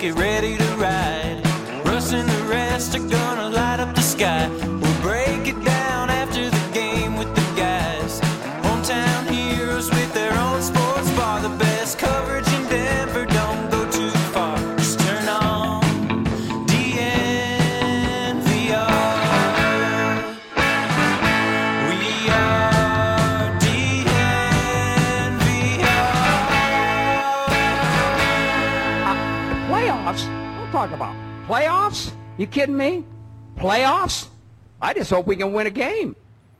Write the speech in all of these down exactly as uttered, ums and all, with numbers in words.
get ready to ride. Russ and the rest are gonna light up the sky. We'll break it down after the game with the guys. Hometown heroes with their own sports bar. The best coverage in Denver, don't go too far. Just turn on D N V R. We are D N V R. Playoffs? Don't talk about playoffs. You kidding me? Playoffs? I just hope we can win a game.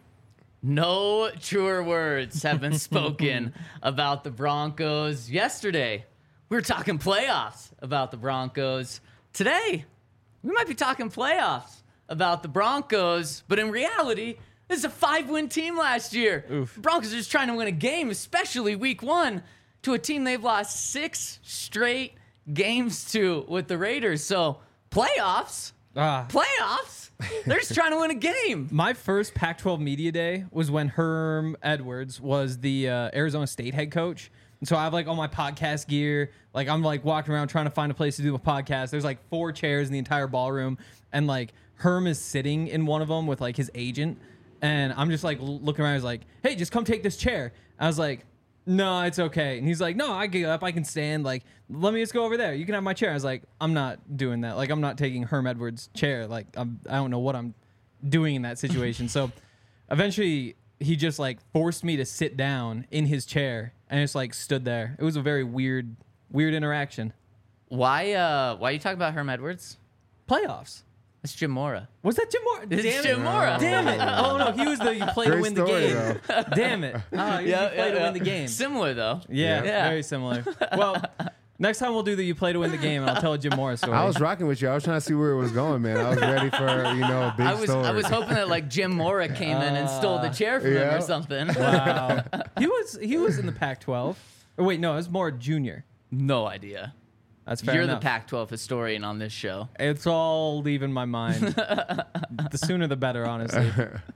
No truer words have been spoken about the Broncos. Yesterday, we were talking playoffs about the Broncos. Today, we might be talking playoffs about the Broncos, but in reality, this is a five-win team last year. Oof. Broncos are just trying to win a game, especially week one, to a team they've lost six straight games to with the Raiders. So, playoffs? Ah. Playoffs? They're just trying to win a game. My first Pac twelve media day was when Herm Edwards was the uh, Arizona State head coach. And so I have like all my podcast gear. Like I'm like walking around trying to find a place to do a podcast. There's like four chairs in the entire ballroom. And like Herm is sitting in one of them with like his agent. And I'm just like looking around. He's like, hey, just come take this chair. I was like, no, it's okay. And he's like, no, I get up. I can stand. Like, let me just go over there. You can have my chair. I was like, I'm not doing that. Like, I'm not taking Herm Edwards' chair. Like, I'm, I don't know what I'm doing in that situation. So eventually he just like forced me to sit down in his chair and just like stood there. It was a very weird, weird interaction. Why uh why are you talking about Herm Edwards? Playoffs. It's Jim Mora. Was that Jim Mora? It's Damn Jim it. Mora. Damn it. Oh, no. He was the you play to Great win the story, game. Damn it. Oh, you Yeah, play yeah, to yeah. win the game. Similar though. Yeah, Yeah. very similar. Well, next time we'll do the you play to win the game, and I'll tell a Jim Morris story. I was rocking with you. I was trying to see where it was going, man. I was ready for, you know, a big I was story. I was hoping that like Jim Mora came in and stole the chair from him yeah. or something. Wow. he was he was in the Pac twelve. Or wait, no, it was more junior. No idea. That's fair You're enough. the Pac twelve historian on this show. It's all leaving my mind. The sooner the better, honestly.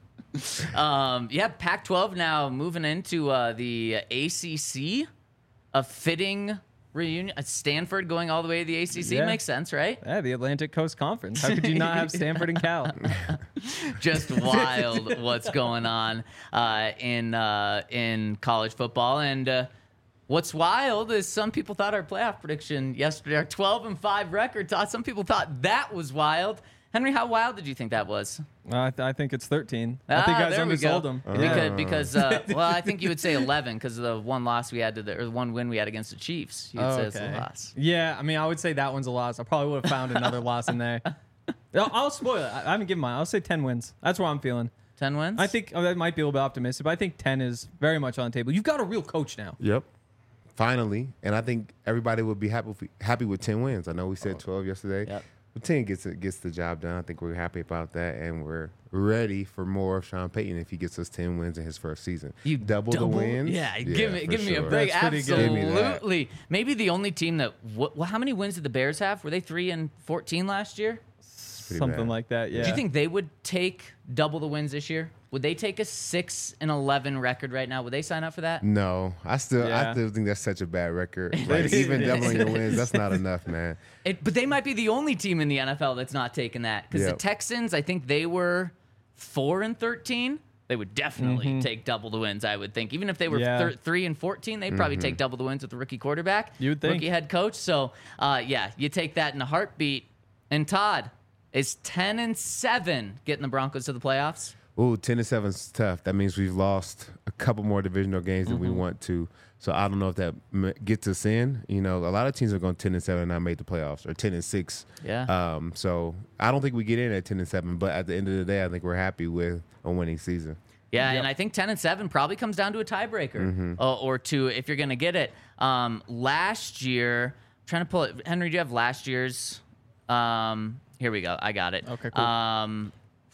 Um, yeah, Pac twelve now moving into uh, the A C C. A fitting reunion. Uh, Stanford going all the way to the A C C Yeah. makes sense, right? Yeah, the Atlantic Coast Conference. How could you not have Stanford and Cal? Just wild what's going on uh, in uh, in college football. And uh, what's wild is some people thought our playoff prediction yesterday, our twelve and five record, thought some people thought that was wild. Henry, how wild did you think that was? Uh, I, th- I think it's thirteen. Ah, I think guys there we go. undersold them. Because, because uh, well, I think you would say eleven because of the one loss we had to the or the one win we had against the Chiefs. You would say it's a loss. Yeah, I mean, I would say that one's a loss. I probably would have found another loss in there. I'll, I'll spoil it. I, I haven't given mine. I'll say ten wins. That's what I'm feeling. Ten wins. I think oh, that might be a little bit optimistic, but I think ten is very much on the table. You've got a real coach now. Yep. Finally. And I think everybody would be happy if- happy with ten wins. I know we said twelve yesterday. Yep. But ten gets it, gets the job done. I think we're happy about that, and we're ready for more of Sean Payton if he gets us ten wins in his first season. You double, the wins. Yeah, give me for give me a sure. break. That's pretty good. Give me that. Absolutely. Maybe the only team that. What, well, how many wins did the Bears have? Were they three and fourteen last year? Pretty Something bad. like that, yeah. Do you think they would take double the wins this year? Would they take a six and eleven record right now? Would they sign up for that? No, I still Yeah. I still think that's such a bad record. Like even doubling your wins, that's not enough, man. It, but they might be the only team in the N F L that's not taking that because the Yep. Texans, I think they were four and thirteen. They would definitely take double the wins. I would think, even if they were Yeah. thir- three and fourteen, they'd probably take double the wins with the rookie quarterback, You would think. rookie head coach. So, uh, yeah, you take that in a heartbeat. And Todd is ten and seven getting the Broncos to the playoffs. Ooh, ten and seven is tough. That means we've lost a couple more divisional games than we want to. So I don't know if that m- gets us in. You know, a lot of teams are going ten and seven and not made the playoffs, or ten and six. Yeah. Um. So I don't think we get in at ten and seven. But at the end of the day, I think we're happy with a winning season. Yeah, and I think ten and seven probably comes down to a tiebreaker Mm-hmm. uh, or two if you're going to get it. Um, last year, I'm trying to pull it. Henry, do you have last year's? Um, here we go. I got it. Okay, cool. Um,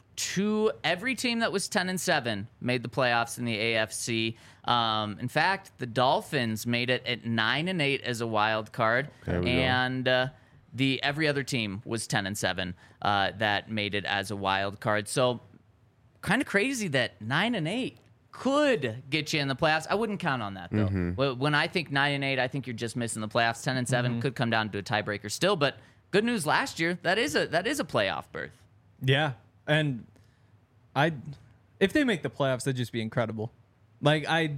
two every team that was ten and seven made the playoffs in the A F C. Um, in fact, the Dolphins made it at nine and eight as a wild card, There we go. and uh, the every other team was ten and seven uh, that made it as a wild card. So, kind of crazy that nine and eight could get you in the playoffs. I wouldn't count on that though. Mm-hmm. When I think nine and eight, I think you're just missing the playoffs. Ten and seven mm-hmm. could come down to a tiebreaker still. But good news last year, that is a that is a playoff berth. Yeah, and I, if they make the playoffs, that'd just be incredible. Like I,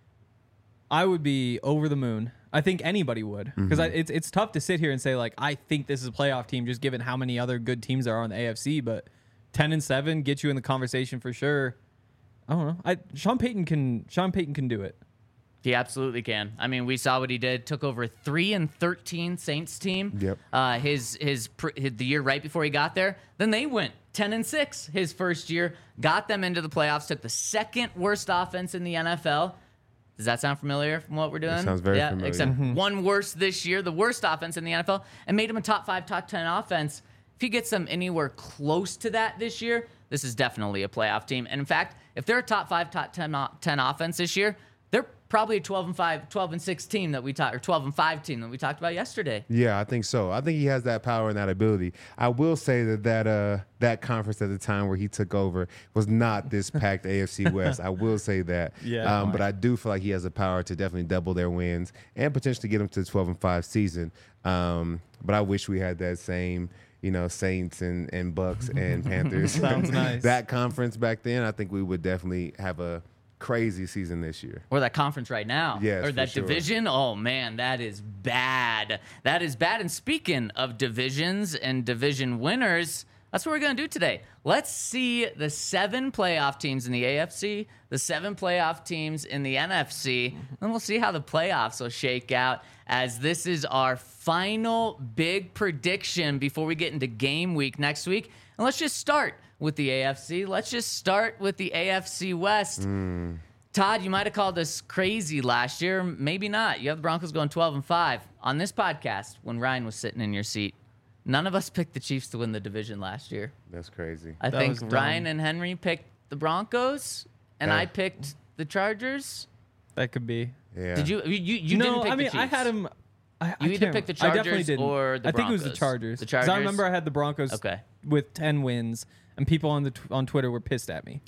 I would be over the moon. I think anybody would, because mm-hmm. it's it's tough to sit here and say like I think this is a playoff team just given how many other good teams there are in the A F C. But ten and seven get you in the conversation for sure. I don't know. I Sean Payton can Sean Payton can do it. He absolutely can. I mean, we saw what he did. Took over a three and thirteen Saints team. Yep. Uh, his, his his the year right before he got there. Then they went ten and six his first year. Got them into the playoffs. Took the second worst offense in the N F L. Does that sound familiar from what we're doing? It sounds very yeah, familiar. Except Mm-hmm. one worse this year, the worst offense in the N F L, and made him a top five, top ten offense. If he gets them anywhere close to that this year, this is definitely a playoff team. And in fact, if they're a top five, top ten, ten offense this year, they're probably a twelve and five, twelve and six team that we talked, or twelve and five team that we talked about yesterday. Yeah, I think so. I think he has that power and that ability. I will say that that uh that conference at the time where he took over was not this packed A F C West. I will say that. Yeah. Um, but I do feel like he has the power to definitely double their wins and potentially get them to the twelve and five season. Um, but I wish we had that same, you know, Saints and, and Bucks and Panthers. Sounds nice. That conference back then, I think we would definitely have a crazy season this year. Or that conference right now. Yes, or that for sure. division. Oh, man, that is bad. That is bad. And speaking of divisions and division winners, that's what we're going to do today. Let's see the seven playoff teams in the A F C, the seven playoff teams in the N F C, and we'll see how the playoffs will shake out, as this is our final big prediction before we get into game week next week. And let's just start with the A F C. Let's just start with the A F C West. Mm. Todd, you might have called us crazy last year. Maybe not. You have the Broncos going twelve and five. On this podcast, when Ryan was sitting in your seat, none of us picked the Chiefs to win the division last year. That's crazy. I That think was dumb. Ryan and Henry picked the Broncos, and Yeah. I picked the Chargers. That could be. Yeah. Did you? You, you no, didn't pick I mean the Chiefs. I had him. I, I You either can't picked the remember. I definitely Chargers didn't. or the I think it was the Broncos. Chargers. The 'Cause I Chargers? remember I had the Broncos Okay. with ten wins, and people on the tw- on Twitter were pissed at me.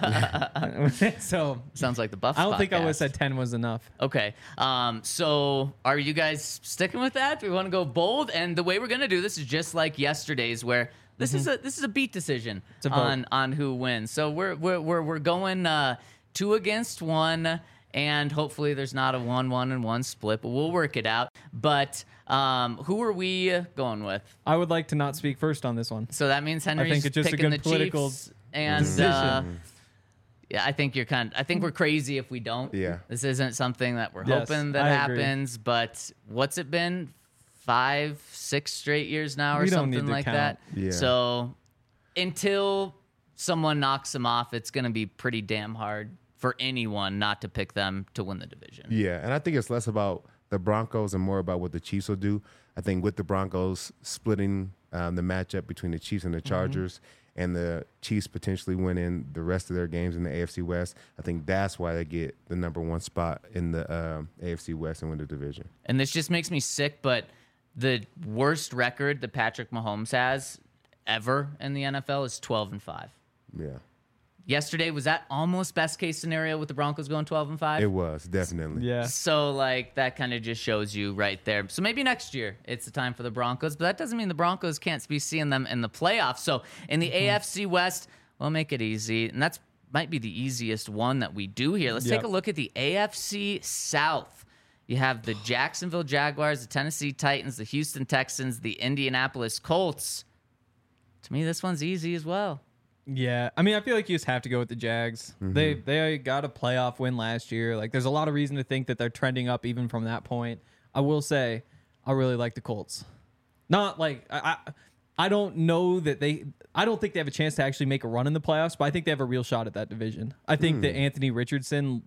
So Sounds like the Buffs I don't think I would have podcast. said ten was enough. Okay. Um, so are you guys sticking with that? Do we want to go bold? And the way we're going to do this is just like yesterday's, where this is a this is a beat decision a vote. on on who wins. So we're we're we're, we're going uh, two against one, and hopefully there's not a one one and one split, but we'll work it out. But um, who are we going with? I would like to not speak first on this one. So that means Henry's it's just a picking good the political Chiefs, and decision. uh, yeah, I think you're kind. I think we're crazy if we don't. Yeah. This isn't something that we're Yes, hoping that I agree. happens. But what's it been? Five, six straight years now, or We don't something need to like count. that. Yeah. So until someone knocks them off, it's going to be pretty damn hard for anyone not to pick them to win the division. Yeah, and I think it's less about the Broncos and more about what the Chiefs will do. I think with the Broncos splitting um, the matchup between the Chiefs and the Chargers, mm-hmm. and the Chiefs potentially winning the rest of their games in the A F C West, I think that's why they get the number one spot in the um, A F C West and win the division. And this just makes me sick, but the worst record that Patrick Mahomes has ever in the N F L is twelve and five. Yeah, Yesterday, was that almost best case scenario with the Broncos going twelve and five? it was definitely. Yeah. So, like, that kind of just shows you right there. So maybe next year it's the time for the Broncos, but that doesn't mean the Broncos can't be seeing them in the playoffs. So in the A F C West, we'll make it easy. And that's might be the easiest one that we do here. Let's Yep. take a look at the A F C South. You have the Jacksonville Jaguars, the Tennessee Titans, the Houston Texans, the Indianapolis Colts. To me, this one's easy as well. Yeah, I mean, I feel like you just have to go with the Jags. Mm-hmm. They they got a playoff win last year. Like, there's a lot of reason to think that they're trending up even from that point. I will say, I really like the Colts. Not like I, I, I don't know that they. I don't think they have a chance to actually make a run in the playoffs, but I think they have a real shot at that division. I think Hmm. that Anthony Richardson,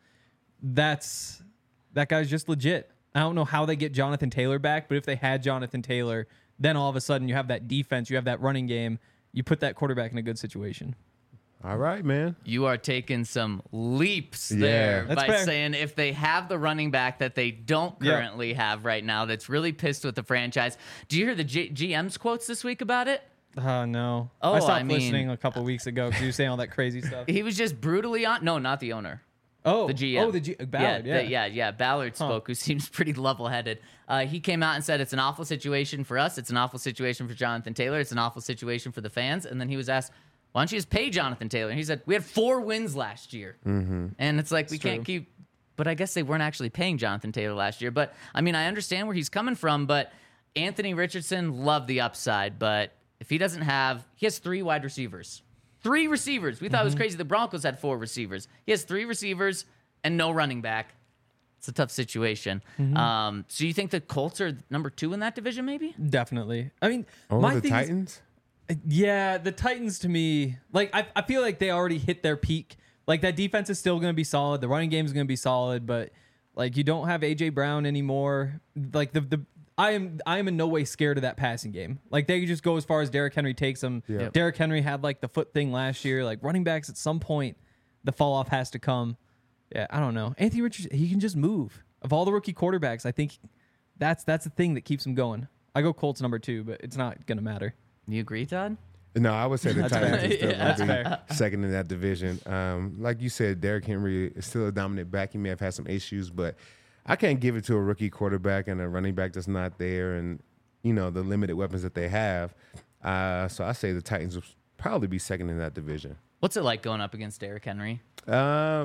that's that guy's just legit. I don't know how they get Jonathan Taylor back, but if they had Jonathan Taylor, then all of a sudden you have that defense, you have that running game. You put that quarterback in a good situation. All right, man. You are taking some leaps Yeah. there That's by fair. saying if they have the running back that they don't Yeah. currently have right now, that's really pissed with the franchise. Do you hear the G- GM's quotes this week about it? Oh no. Oh, I stopped I mean- listening a couple weeks ago because you were saying all that crazy stuff. He was just brutally on. No, not the owner. Oh, The G M. Oh, the G- Ballard. yeah, Yeah, the- yeah, yeah. Ballard spoke, who seems pretty level-headed. Uh, he came out and said it's an awful situation for us. It's an awful situation for Jonathan Taylor. It's an awful situation for the fans. And then he was asked, "Why don't you just pay Jonathan Taylor?" And he said, "We had four wins last year." Mm-hmm. And it's like we It's can't true. keep. But I guess they weren't actually paying Jonathan Taylor last year. But I mean, I understand where he's coming from. But Anthony Richardson loved the upside. But if he doesn't have, he has three wide receivers. Three receivers. We thought Mm-hmm. it was crazy. The Broncos had four receivers. He has three receivers and no running back. It's a tough situation. Mm-hmm. Um, so you think the Colts are number two in that division, maybe? definitely. I mean, Over my the thing is- Titans? Yeah, the Titans to me, like I, I feel like they already hit their peak. Like that defense is still going to be solid. The running game is going to be solid, but like you don't have A J Brown anymore. Like the the I am I am in no way scared of that passing game. Like they could just go as far as Derrick Henry takes them. Yeah. Derrick Henry had like the foot thing last year. Like running backs at some point, the fall off has to come. Yeah, I don't know. Anthony Richardson, he can just move. Of all the rookie quarterbacks, I think that's that's the thing that keeps him going. I go Colts number two, but it's not going to matter. You agree, Todd? No, I would say the Titans fair. are still Yeah, going to be second in that division. Um, like you said, Derrick Henry is still a dominant back. He may have had some issues, but I can't give it to a rookie quarterback and a running back that's not there and, you know, the limited weapons that they have. Uh, so I say the Titans will probably be second in that division. What's it like going up against Derrick Henry? Uh,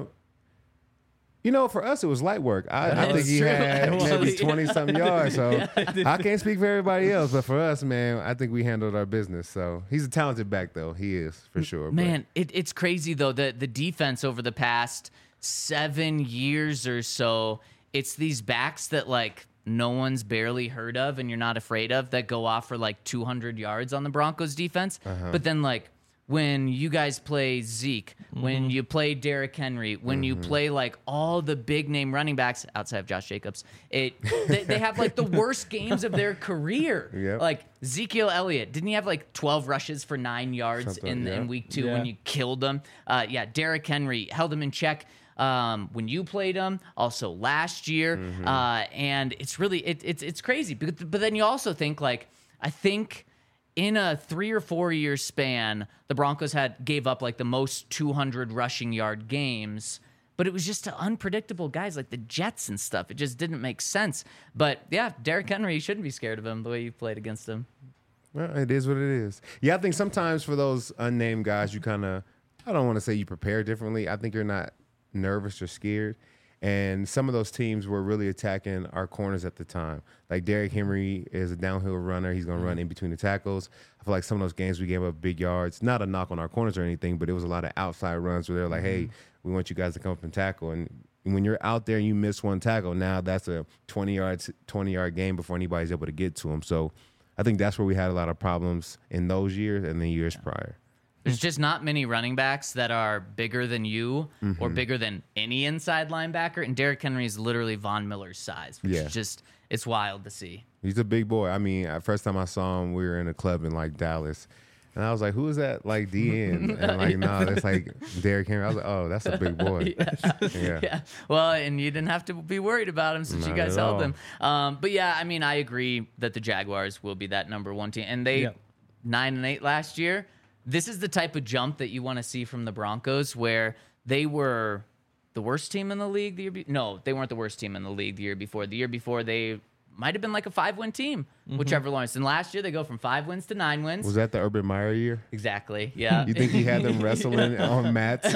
you know, for us, it was light work. I, I That's think he true, had maybe actually. twenty-something yards. So I can't speak for everybody else. But for us, man, I think we handled our business. So he's a talented back, though. He is, for sure. Man, it, it's crazy, though. The, the defense over the past seven years or so, it's these backs that, like, no one's barely heard of and you're not afraid of that go off for, like, two hundred yards on the Broncos defense. Uh-huh. But then, like, when you guys play Zeke, when you play Derrick Henry, when you play like all the big name running backs outside of Josh Jacobs, it they, they have like the worst games of their career. Yep. Like Ezekiel Elliott, didn't he have like twelve rushes for nine yards Something, in, yeah. in week two Yeah. when you killed them? Uh, yeah, Derrick Henry held him in check. Um, when you played him, also last year, uh, and it's really it, it's it's crazy. But, but then you also think like I think in a three or four year span, the Broncos had gave up like the most two hundred rushing yard games, but it was just to unpredictable guys like the Jets and stuff. It just didn't make sense. But yeah, Derrick Henry, you shouldn't be scared of him the way you played against him. Well, it is what it is. Yeah, I think sometimes for those unnamed guys, you kind of, I don't want to say you prepare differently. I think you're not nervous or scared. And some of those teams were really attacking our corners at the time. Like Derrick Henry is a downhill runner. He's going to run in between the tackles. I feel like some of those games we gave up big yards. Not a knock on our corners or anything, but it was a lot of outside runs where they're like, hey, we want you guys to come up and tackle. And when you're out there and you miss one tackle, now that's a twenty yards, twenty yard game before anybody's able to get to them. So I think that's where we had a lot of problems in those years and the years prior. There's just not many running backs that are bigger than you or bigger than any inside linebacker. And Derrick Henry is literally Von Miller's size, which Yeah. is just, it's wild to see. He's a big boy. I mean, uh, first time I saw him, we were in a club in like Dallas. And I was like, who is that like D N? And like, no, that's like Derrick Henry. I was like, oh, that's a big boy. Yeah. Yeah. Well, and you didn't have to be worried about him since you Not guys at held all. him. Um, but yeah, I mean, I agree that the Jaguars will be that number one team. And they, Yeah. nine and eight last year. This is the type of jump that you want to see from the Broncos, where they were the worst team in the league the year be- No, they weren't the worst team in the league the year before. The year before, they might have been like a five-win team, whichever Lawrence. And last year, they go from five wins to nine wins. Was that the Urban Meyer year? Exactly. Yeah. You think he had them wrestling on mats?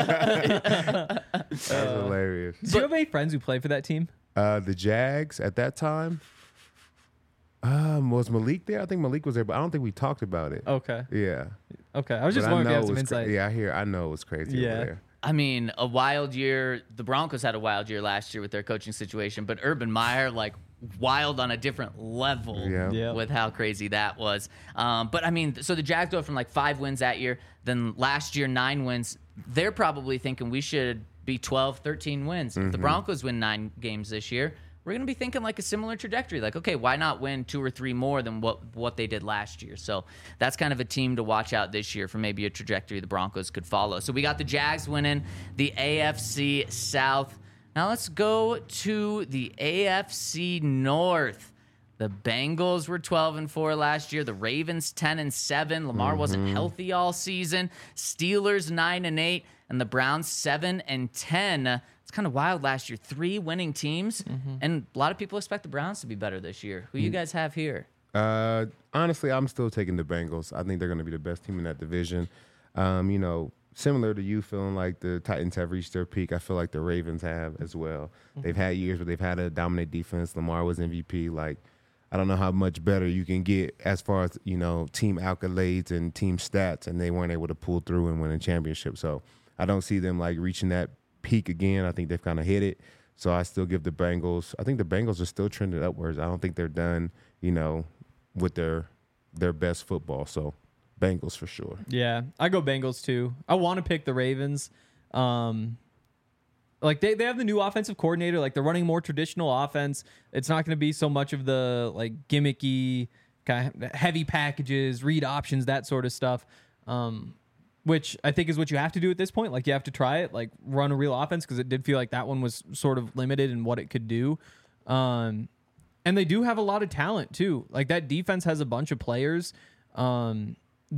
That's hilarious. Do you have any friends who play for that team? Uh, the Jags at that time, um, was Malik there? I think Malik was there, but I don't think we talked about it. Okay. Yeah. Okay. I was just But I wondering if know you have it some was cra- insight. yeah, I hear. I know it was crazy Yeah. over there. I mean, a wild year. The Broncos had a wild year last year with their coaching situation, but Urban Meyer, like, wild on a different level Yeah. Yeah. with how crazy that was. Um, but I mean, so the Jags go from like five wins that year, then last year, nine wins. They're probably thinking we should be twelve, thirteen wins. If the Broncos win nine games this year, we're going to be thinking like a similar trajectory. Like, okay, why not win two or three more than what, what they did last year? So that's kind of a team to watch out this year for maybe a trajectory the Broncos could follow. So we got the Jags winning the A F C South. Now let's go to the A F C North. The Bengals were twelve and four last year. The Ravens ten and seven. Lamar wasn't healthy all season. Steelers nine and eight, and the Browns seven and ten. It's kind of wild last year. Three winning teams, and a lot of people expect the Browns to be better this year. Who you guys have here? Uh, honestly, I'm still taking the Bengals. I think they're going to be the best team in that division. Um, you know, similar to you feeling like the Titans have reached their peak, I feel like the Ravens have as well. Mm-hmm. They've had years where they've had a dominant defense. Lamar was M V P. Like, I don't know how much better you can get as far as, you know, team accolades and team stats, and they weren't able to pull through and win a championship. So I don't see them, like, reaching that peak again. I think they've kind of hit it. So I still give the Bengals. I think the Bengals are still trending upwards. I don't think they're done, you know, with their their best football. So Bengals for sure. Yeah, I go Bengals too. I want to pick the Ravens. Um, like they, they have the new offensive coordinator. Like they're running more traditional offense. It's not going to be so much of the like gimmicky kind of heavy packages, read options, that sort of stuff. Um, which I think is what you have to do at this point. Like you have to try it, like run a real offense, because it did feel like that one was sort of limited in what it could do. Um, and they do have a lot of talent too. Like that defense has a bunch of players. Um,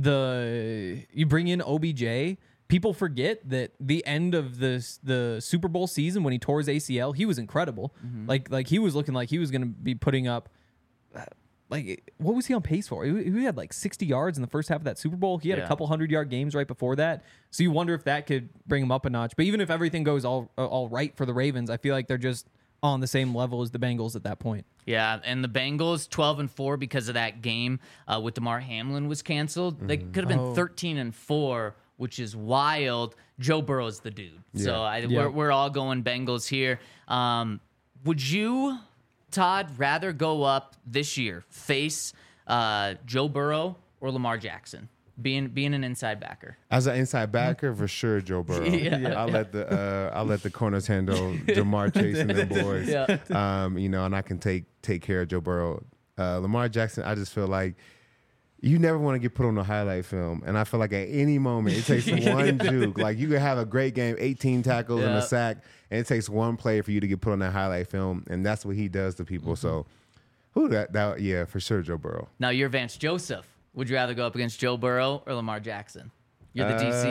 the you bring in O B J. People forget that the end of the the Super Bowl season when he tore his A C L, he was incredible. Mm-hmm. Like like he was looking like he was going to be putting up. Uh, like what was he on pace for? He, he had like sixty yards in the first half of that Super Bowl. He had yeah. a couple hundred yard games right before that. So you wonder if that could bring him up a notch. But even if everything goes all all right for the Ravens, I feel like they're just on the same level as the Bengals at that point. Yeah, and the Bengals twelve and four because of that game uh, with DeMar Hamlin was canceled. Mm-hmm. They could have been oh. thirteen and four, which is wild. Joe Burrow's the dude. Yeah. So I, yeah. we're we're all going Bengals here. Um, would you, Todd, rather go up this year, face uh, Joe Burrow or Lamar Jackson? Being being an inside backer. As an inside backer, for sure, Joe Burrow. yeah. I'll let the uh, I'll let the corners handle Jamar Chase and them boys. Yeah. Um, you know, and I can take take care of Joe Burrow. Uh, Lamar Jackson, I just feel like you never want to get put on a highlight film, and I feel like at any moment it takes one juke. Like you could have a great game, eighteen tackles yeah. and a sack, and it takes one play for you to get put on that highlight film, and that's what he does to people. Mm-hmm. So, who that that yeah, for sure, Joe Burrow. Now you're Vance Joseph. Would you rather go up against Joe Burrow or Lamar Jackson? You're the D C.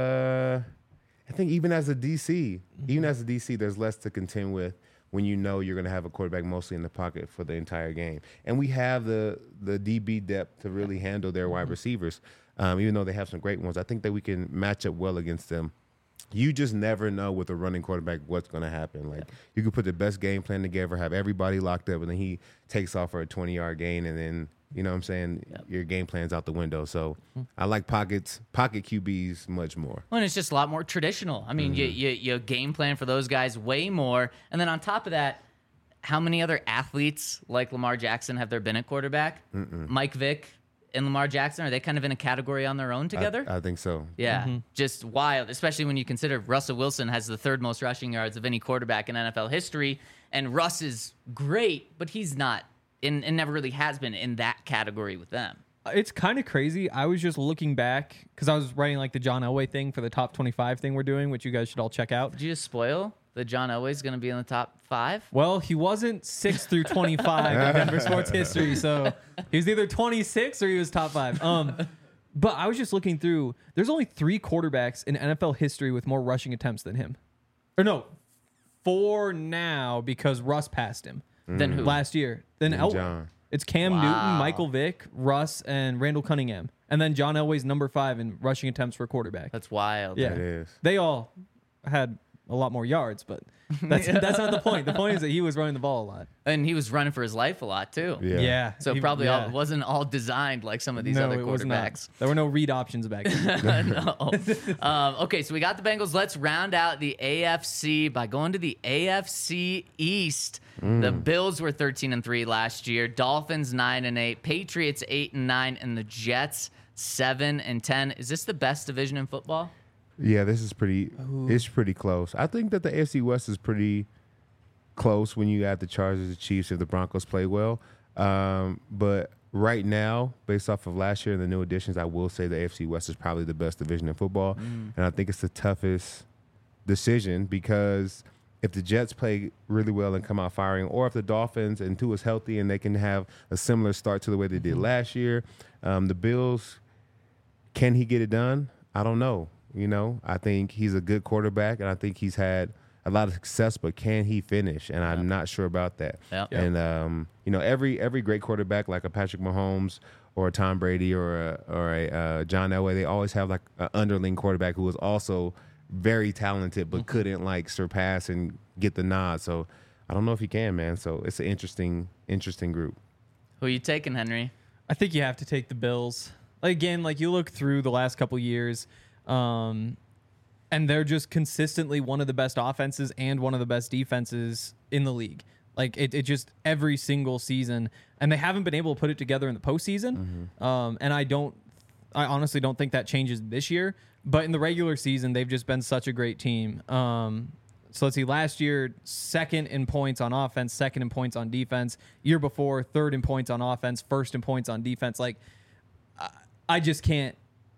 Uh, I think even as a D C, mm-hmm. even as a D C, there's less to contend with when you know you're going to have a quarterback mostly in the pocket for the entire game. And we have the the D B depth to really handle their wide receivers. Um, even though they have some great ones, I think that we can match up well against them. You just never know with a running quarterback what's going to happen. Like yeah. you could put the best game plan together, have everybody locked up, and then he takes off for a twenty-yard gain, and then you know what I'm saying? Yep. Your game plan's out the window. So mm-hmm. I like pockets, pocket Q Bs much more. Well, and it's just a lot more traditional. I mean, mm-hmm. you, you you game plan for those guys way more. And then on top of that, how many other athletes like Lamar Jackson have there been at quarterback? Mm-mm. Mike Vick and Lamar Jackson, are they kind of in a category on their own together? I, I think so. Yeah, mm-hmm. just wild, especially when you consider Russell Wilson has the third most rushing yards of any quarterback in N F L history. And Russ is great, but he's not. And, and never really has been in that category with them. It's kind of crazy. I was just looking back because I was writing like the John Elway thing for the top twenty-five thing we're doing, which you guys should all check out. Did you just spoil that John Elway's going to be in the top five? Well, he wasn't six through twenty-five in Denver sports history, so he was either twenty-six or he was top five. Um, but I was just looking through. There's only three quarterbacks in N F L history with more rushing attempts than him. Or no, four now because Russ passed him. Then who? Last year. Then and El- John. It's Cam Wow. Newton, Michael Vick, Russ, and Randall Cunningham. And then John Elway's number five in rushing attempts for quarterback. That's wild. Yeah. It is. They all had a lot more yards, but that's that's not the point. The point is that he was running the ball a lot. And he was running for his life a lot, too. Yeah. Yeah. So He- probably yeah. all, wasn't all designed like some of these No, other it was not. quarterbacks. There were no read options back then. no. Um, okay, so we got the Bengals. Let's round out the A F C by going to the A F C East. Mm. The Bills were thirteen and three last year. Dolphins nine and eight. Patriots eight and nine, and the Jets seven and ten. Is this the best division in football? Yeah, this is pretty. Ooh. It's pretty close. I think that the A F C West is pretty close when you add the Chargers, the Chiefs, if the Broncos play well. Um, but right now, based off of last year and the new additions, I will say the A F C West is probably the best division in football, mm. and I think it's the toughest decision because if the Jets play really well and come out firing, or if the Dolphins and Tua's healthy and they can have a similar start to the way they did last year, um, the Bills, can he get it done? I don't know. You know, I think he's a good quarterback, and I think he's had a lot of success, but can he finish? And I'm not sure about that. Yep. And, um, you know, every every great quarterback like a Patrick Mahomes or a Tom Brady or a, or a uh, John Elway, they always have like an underling quarterback who is also very talented but mm-hmm. couldn't like surpass and get the nod. So I don't know if he can, man. So it's an interesting, interesting group. Who are you taking, Henry? I think you have to take the Bills. Like, again, like you look through the last couple years, um, and they're just consistently one of the best offenses and one of the best defenses in the league. Like it, it just every single season, and they haven't been able to put it together in the postseason. Mm-hmm. Um, and I don't, I honestly don't think that changes this year. But in the regular season, they've just been such a great team. Um, so let's see, last year, second in points on offense, second in points on defense. Year before, third in points on offense, first in points on defense. Like, I, I just can't,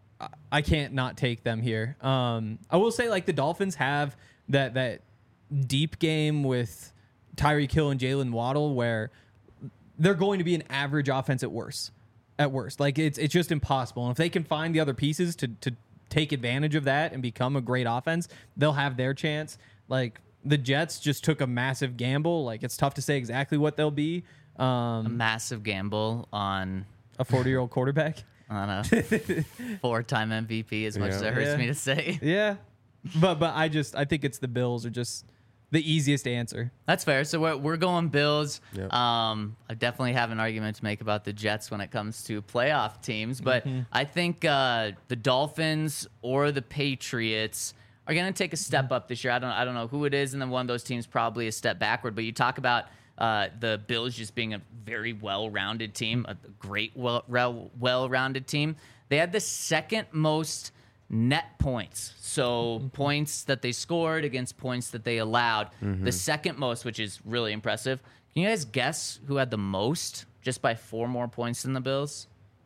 I can't not take them here. Um, I will say, like, the Dolphins have that that deep game with Tyreek Hill and Jalen Waddle where they're going to be an average offense at worst. At worst. Like, it's it's just impossible. And if they can find the other pieces to to take advantage of that and become a great offense, they'll have their chance. Like, the Jets just took a massive gamble. Like, it's tough to say exactly what they'll be. Um, a massive gamble on a forty-year-old quarterback. On a four-time M V P, as much Yeah. as it hurts Yeah. me to say. Yeah. But but I just I think it's the Bills are just the easiest answer. That's fair. So we're, we're going Bills. Yep. Um, I definitely have an argument to make about the Jets when it comes to playoff teams, but Mm-hmm. I think uh, the Dolphins or the Patriots are going to take a step Mm-hmm. up this year. I don't I don't know who it is, and then one of those teams probably a step backward. But you talk about uh, the Bills just being a very well-rounded team, a great well well-rounded team. They had the second most net points. So Mm-hmm. points that they scored against points that they allowed. Mm-hmm. The second most, which is really impressive. Can you guys guess who had the most just by four more points than the Bills?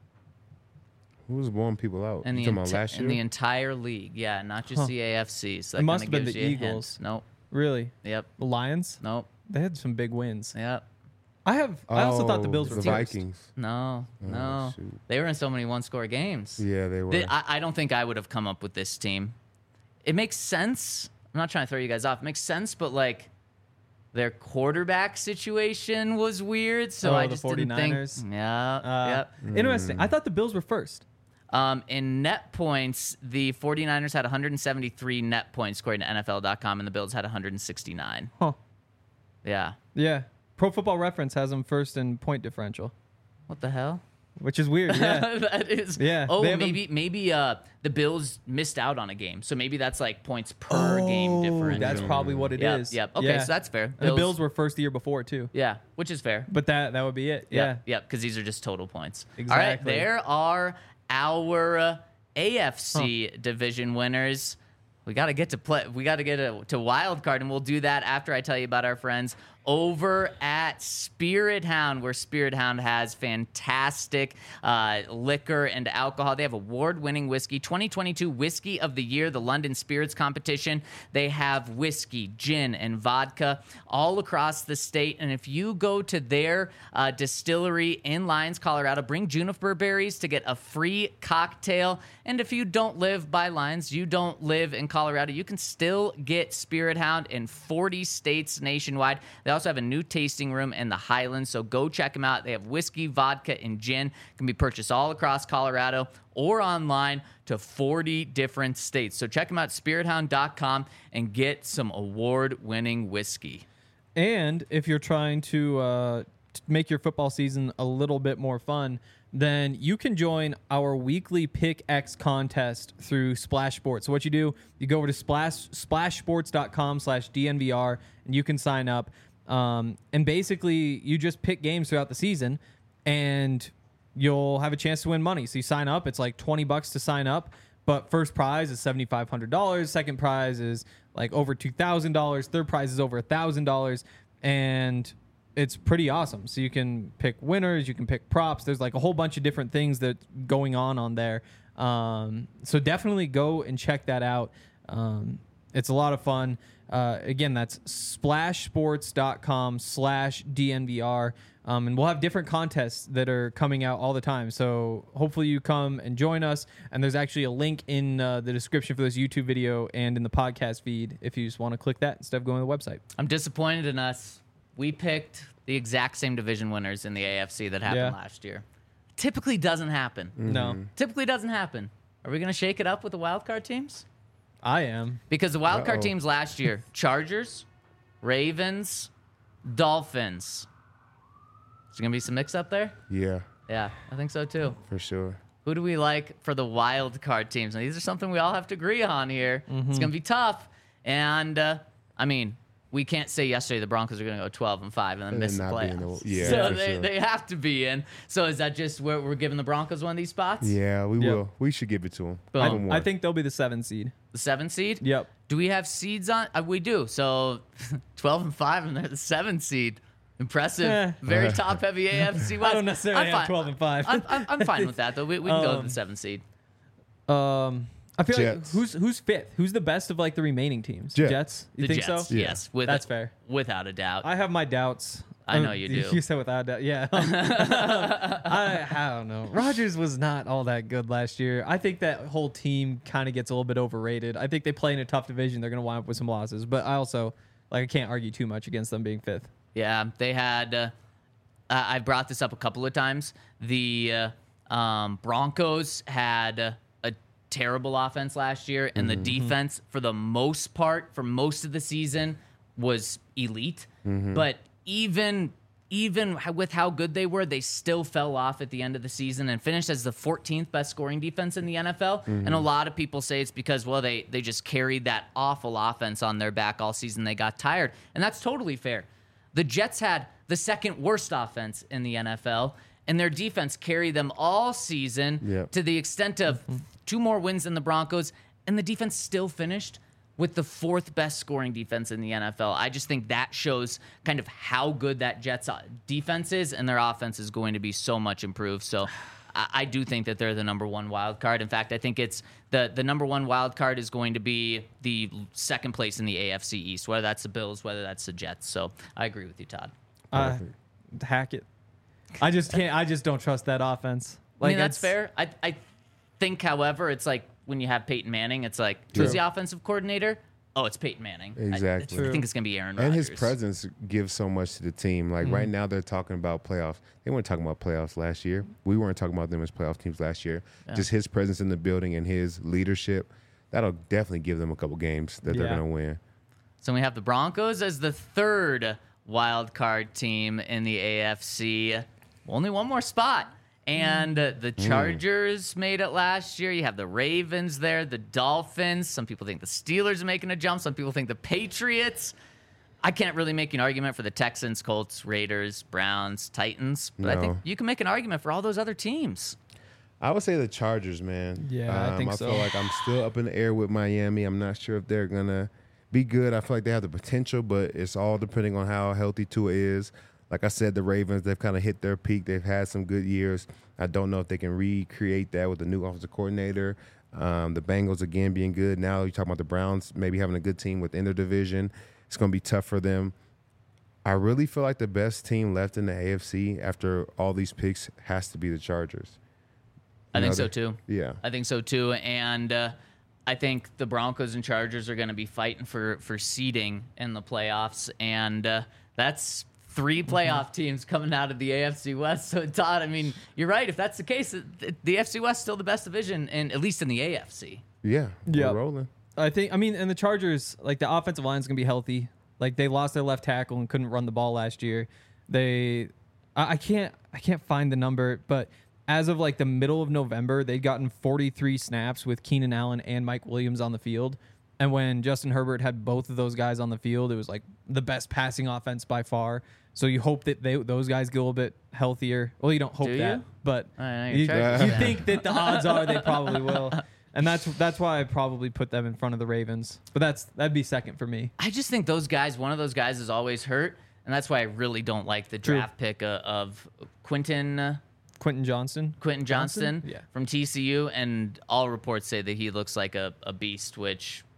Who was blowing people out? In the, You talking about enti- last in year? the entire league. Yeah, not just Huh. the A F C. So It that must kinda have been gives the you a hint. Eagles. Nope. Really? Yep. The Lions? Nope. They had some big wins. Yep. I have I also thought the Oh, Bills were the first. Vikings. No. No. shoot. They were in so many one-score games. Yeah, they were. They- I, I don't think I would have come up with this team. It makes sense. I'm not trying to throw you guys off. It makes sense, but like their quarterback situation was weird, so Oh, I the just didn't forty-niners? think. Yeah. Uh, yep. Interesting. I thought the Bills were first. Um, in net points, the forty-niners had one hundred seventy-three net points according to N F L dot com, and the Bills had one hundred sixty-nine. Huh. Yeah. Yeah. Pro Football Reference has them first in point differential, What the hell? which is weird. Yeah. that is. Yeah, Oh, they have 'em- maybe maybe uh the Bills missed out on a game, so maybe that's like points per game differential. That's probably what it is. Yep, yep. Okay, Yeah. so that's fair. And the Bills were first the year before too. Yeah, which is fair. But that that would be it. Yeah. Yep, yep, because these are just total points. All Exactly. right, there are our uh, A F C division winners. We got to get to play. We got to get a, to wild card, and we'll do that after I tell you about our friends over at Spirit Hound, where Spirit Hound has fantastic uh, liquor and alcohol. They have award-winning whiskey, twenty twenty-two Whiskey of the Year, the London Spirits Competition. They have whiskey, gin, and vodka all across the state. And if you go to their uh, distillery in Lyons, Colorado, bring juniper berries to get a free cocktail. And if you don't live by Lyons, you don't live in Colorado, you can still get Spirit Hound in forty states nationwide. They also have a new tasting room in the Highlands, so go check them out. They have whiskey, vodka, and gin. Can be purchased all across Colorado or online to forty different states. So check them out, spirit hound dot com, and get some award-winning whiskey. And if you're trying to uh, t- make your football season a little bit more fun, then you can join our weekly Pick X contest through Splash Sports. So what you do, you go over to splash splashsports dot com slash D N V R, and you can sign up. Um, and basically, you just pick games throughout the season, and you'll have a chance to win money. So you sign up. It's like twenty bucks to sign up. But first prize is seven thousand five hundred dollars. Second prize is like over two thousand dollars. Third prize is over one thousand dollars. And it's pretty awesome. So you can pick winners. You can pick props. There's like a whole bunch of different things that's going on on there. Um, so definitely go and check that out. Um, it's a lot of fun. Uh, again, that's splashsports.com slash DNVR. Um, and we'll have different contests that are coming out all the time. So hopefully you come and join us. And there's actually a link in uh, the description for this YouTube video and in the podcast feed if you just want to click that instead of going to the website. I'm disappointed in us. We picked the exact same division winners in the A F C that happened Yeah. last year. Typically doesn't happen. No, Typically doesn't happen. Are we going to shake it up with the wild card teams? I am. Because the wild card Uh-oh. teams last year, Chargers, Ravens, Dolphins. Is there going to be some mix up there? Yeah, Yeah, I think so too. for sure. Who do we like for the wild card teams? Now, these are something we all have to agree on here. Mm-hmm. It's going to be tough. And, uh, I mean, we can't say yesterday the Broncos are going to go twelve and five and then And miss then the not be in playoffs. the- yeah, so for they, sure. they have to be in. So is that just where we're giving the Broncos one of these spots? Yeah, we Yep. will. We should give it to them. Boom. I think they'll be the seven seed. The seven seed? Yep. Do we have seeds on? Uh, we do. So twelve and five, and they're the seven seed. Impressive. Eh. Very top heavy A F C West. I don't necessarily I'm have fine. twelve and five. I'm, I'm, I'm fine with that, though. We, we can go to Um, the seven seed. Um, I feel Jets. like who's who's fifth? Who's the best of like the remaining teams? Jets. You The think Jets, so? Yeah. yes. With That's fair. Without a doubt. I have my doubts. I know Um, you do. You said without doubt. Yeah. I, I don't know. Rodgers was not all that good last year. I think that whole team kind of gets a little bit overrated. I think they play in a tough division. They're going to wind up with some losses. But I also, like, I can't argue too much against them being fifth. Yeah, they had. Uh, uh, I brought this up a couple of times. The uh, um, Broncos had uh, a terrible offense last year, and the defense, for the most part, for most of the season, was elite. But even even h- with how good they were, they still fell off at the end of the season and finished as the fourteenth best scoring defense in the N F L. And a lot of people say it's because, well, they they just carried that awful offense on their back all season. They got tired, and that's totally fair. The Jets had the second worst offense in the N F L, and their defense carried them all season Yep. to the extent of two more wins than the Broncos, and the defense still finished with the fourth best scoring defense in the N F L. I just think that shows kind of how good that Jets uh, defense is, and their offense is going to be so much improved. So I, I do think that they're the number one wild card. In fact, I think it's the, the number one wild card is going to be the second place in the A F C East, whether that's the Bills, whether that's the Jets. So I agree with you, Todd. Uh, hack it. I just can't. I just don't trust that offense. I mean, that's it's- fair. I, I think, however, it's like when you have Peyton Manning, it's like, who's the offensive coordinator? Oh, it's Peyton Manning. I- Exactly. I, True. think it's going to be Aaron And Rodgers. his presence gives so much to the team. Like right now, they're talking about playoffs. They weren't talking about playoffs last year. We weren't talking about them as playoff teams last year. Just his presence in the building and his leadership, that'll definitely give them a couple games that they're Yeah. going to win. So we have the Broncos as the third wild card team in the A F C. Only one more spot. And uh, the Chargers made it last year. You have the Ravens there, the Dolphins. Some people think the Steelers are making a jump. Some people think the Patriots. I can't really make an argument for the Texans, Colts, Raiders, Browns, Titans. But I think No. you can make an argument for all those other teams. I would say the Chargers, man. Yeah, I think I so. feel like I'm still up in the air with Miami. I'm not sure if they're going to be good. I feel like they have the potential, but it's all depending on how healthy Tua is. Like I said, the Ravens, they've kind of hit their peak. They've had some good years. I don't know if they can recreate that with the new offensive coordinator. Um, the Bengals, again, being good. Now you're talking about the Browns maybe having a good team within their division. It's going to be tough for them. I really feel like the best team left in the A F C after all these picks has to be the Chargers. I You think know, so they- too. Yeah. I think so too. And uh, I think the Broncos and Chargers are going to be fighting for for seeding in the playoffs, and uh, that's three playoff teams coming out of the A F C West. So Todd, I mean, you're right. If that's the case, the, the A F C West is still the best division, and at least in the A F C. Yeah. Yep. We're rolling. I think. I mean, and the Chargers, like the offensive line is gonna be healthy. Like they lost their left tackle and couldn't run the ball last year. They, I, I can't, I can't find the number, but as of like the middle of November, they'd gotten forty-three snaps with Keenan Allen and Mike Williams on the field. And when Justin Herbert had both of those guys on the field, it was like the best passing offense by far. So you hope that they those guys get a little bit healthier. Well, you don't hope Do that, you? but I know, you're you, checking you that. think that the odds are they probably will. And that's that's why I probably put them in front of the Ravens. But that's that'd be second for me. I just think those guys, one of those guys is always hurt, and that's why I really don't like the True. draft pick uh, of Quentin. Uh, Quentin Johnston. Quentin Johnston, Yeah. from T C U, and all reports say that he looks like a, a beast, which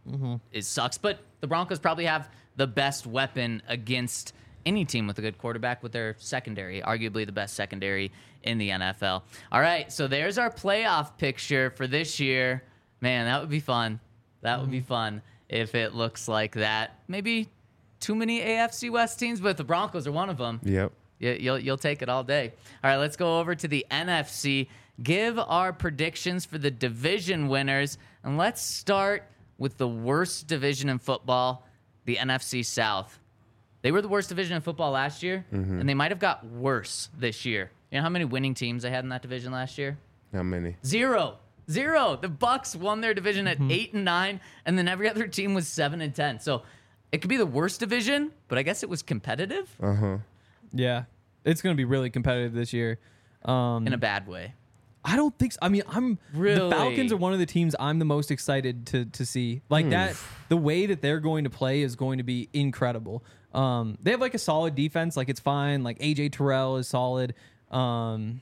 mm-hmm. it sucks. But the Broncos probably have the best weapon against any team with a good quarterback with their secondary, arguably the best secondary in the N F L. All right, so there's our playoff picture for this year. Man, that would be fun. That mm-hmm. would be fun if it looks like that. Maybe too many A F C West teams, but the Broncos are one of them. Yep. You, you'll, you'll take it all day. All right, let's go over to the N F C. Give our predictions for the division winners, and let's start with the worst division in football, the N F C South. They were the worst division in football last year, mm-hmm. and they might have got worse this year. You know how many winning teams they had in that division last year? How many? Zero. Zero. The Bucks won their division at Mm-hmm. eight and nine, and then every other team was seven and ten. So it could be the worst division, but I guess it was competitive Uh huh. Yeah, it's going to be really competitive this year. Um, in a bad way. I don't think so. I mean, I'm Really? the Falcons are one of the teams I'm the most excited to to see. Like that, the way that they're going to play is going to be incredible. Um, they have like a solid defense, like it's fine. Like A J Terrell is solid, um,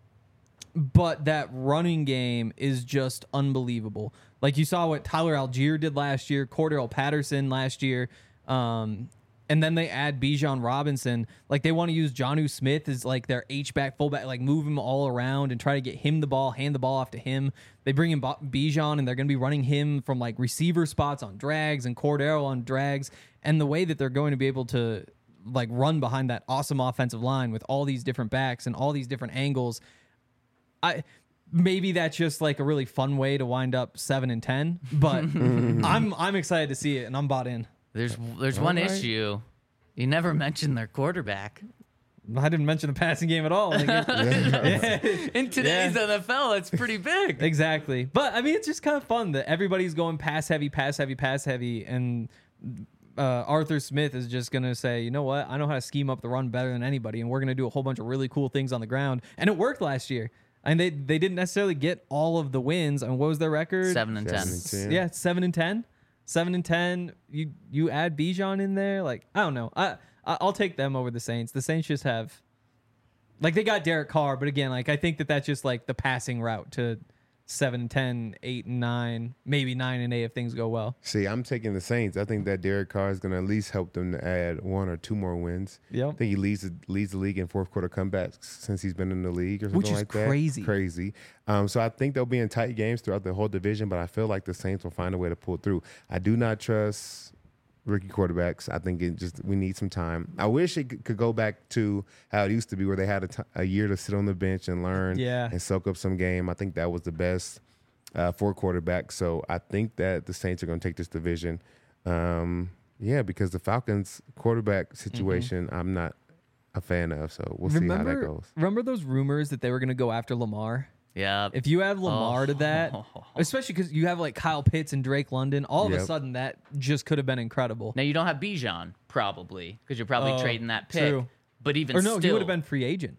but that running game is just unbelievable. Like you saw what Tyler Algier did last year, Cordell Patterson last year. Um, And then they add Bijan Robinson. Like they want to use Jonnu Smith as like their H-back, fullback, like move him all around and try to get him the ball, hand the ball off to him. They bring in Bijan and they're going to be running him from like receiver spots on drags and Cordero on drags. And the way that they're going to be able to like run behind that awesome offensive line with all these different backs and all these different angles, I maybe that's just like a really fun way to wind up seven and ten. But I'm I'm excited to see it and I'm bought in. There's there's All one right. issue. You never mentioned their quarterback. I didn't mention the passing game at all. Like, it- In today's Yeah. N F L, it's pretty big. Exactly. But I mean, it's just kind of fun that everybody's going pass heavy, pass heavy, pass heavy. And uh, Arthur Smith is just going to say, you know what? I know how to scheme up the run better than anybody. And we're going to do a whole bunch of really cool things on the ground. And it worked last year. And they, they didn't necessarily get all of the wins. And what was their record? Seven and ten. Seven and ten. Yeah, seven and ten. Seven and ten. You you add Bijan in there. Like, I don't know. I, I I'll take them over the Saints. The Saints just have, like, they got Derek Carr, but again, like, I think that that's just like the passing route to seven and ten, eight and nine, maybe nine and eight if things go well. See, I'm taking the Saints. I think that Derek Carr is going to at least help them to add one or two more wins. Yep. I think he leads the, leads the league in fourth quarter comebacks since he's been in the league or something Which is like that. crazy. Crazy. Um, so I think they'll be in tight games throughout the whole division, but I feel like the Saints will find a way to pull through. I do not trust rookie quarterbacks. I think it just we need some time. I wish it c- could go back to how it used to be where they had a, t- a year to sit on the bench and learn Yeah. and soak up some game. I think that was the best uh, for quarterbacks. So I think that the Saints are going to take this division. Um, yeah, because the Falcons quarterback situation, I'm not a fan of. So we'll see how that remember, goes. remember those rumors that they were going to go after Lamar? Yeah. If you add Lamar to that, Oh. especially because you have like Kyle Pitts and Drake London, all of a Yep. sudden that just could have been incredible. Now you don't have Bijan probably because you're probably Oh, trading that pick. true. But even Or no, still, you would have been free agent.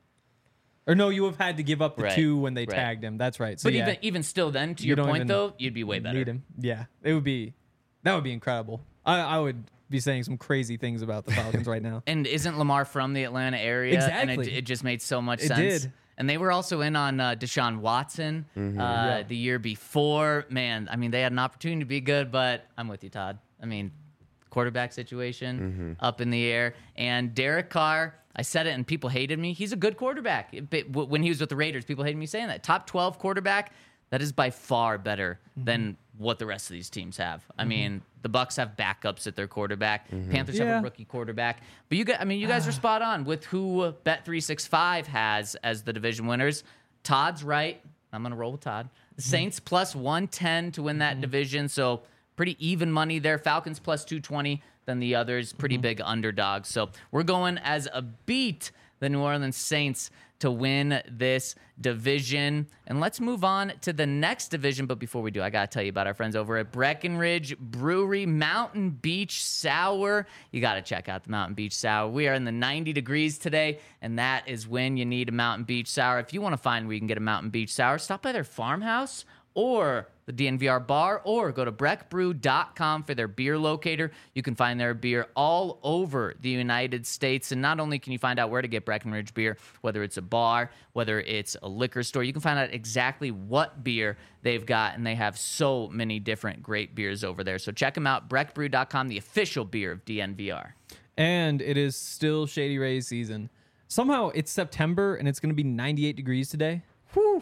Or no, you would have had to give up the Right, two when they right. tagged him. That's right. So But yeah, even even still, then to You your don't point even though, you'd be way better. need him. Yeah, it would be. That would be incredible. I, I would be saying some crazy things about the Falcons right now. And isn't Lamar from the Atlanta area? And Exactly. it, it just made so much It sense. did. And they were also in on uh, Deshaun Watson uh, Yeah. the year before. Man, I mean, they had an opportunity to be good, but I'm with you, Todd. I mean, quarterback situation up in the air. And Derek Carr, I said it and people hated me. He's a good quarterback. It- but w- when he was with the Raiders, people hated me saying that. Top twelve quarterback, that is by far better than what the rest of these teams have. I mean, the Bucks have backups at their quarterback. Panthers have Yeah. a rookie quarterback. But you guys, I mean, you guys are spot on with who Bet three sixty-five has as the division winners. Todd's right. I'm going to roll with Todd. The Saints plus one ten to win that division. So pretty even money there. Falcons plus two twenty. Then the others, pretty big underdogs. So we're going as a beat the New Orleans Saints to win this division. And let's move on to the next division. But before we do, I got to tell you about our friends over at Breckenridge Brewery Mountain Beach Sour. You got to check out the Mountain Beach Sour. We are in the ninety degrees today, and that is when you need a Mountain Beach Sour. If you want to find where you can get a Mountain Beach Sour, stop by their farmhouse or the D N V R bar, or go to breck brew dot com for their beer locator. You can find their beer all over the United States. And not only can you find out where to get Breckenridge beer, whether it's a bar, whether it's a liquor store, you can find out exactly what beer they've got. And they have so many different great beers over there. So check them out, breck brew dot com, the official beer of D N V R. And it is still Shady Rays season. Somehow it's September and it's going to be ninety-eight degrees today. Whew.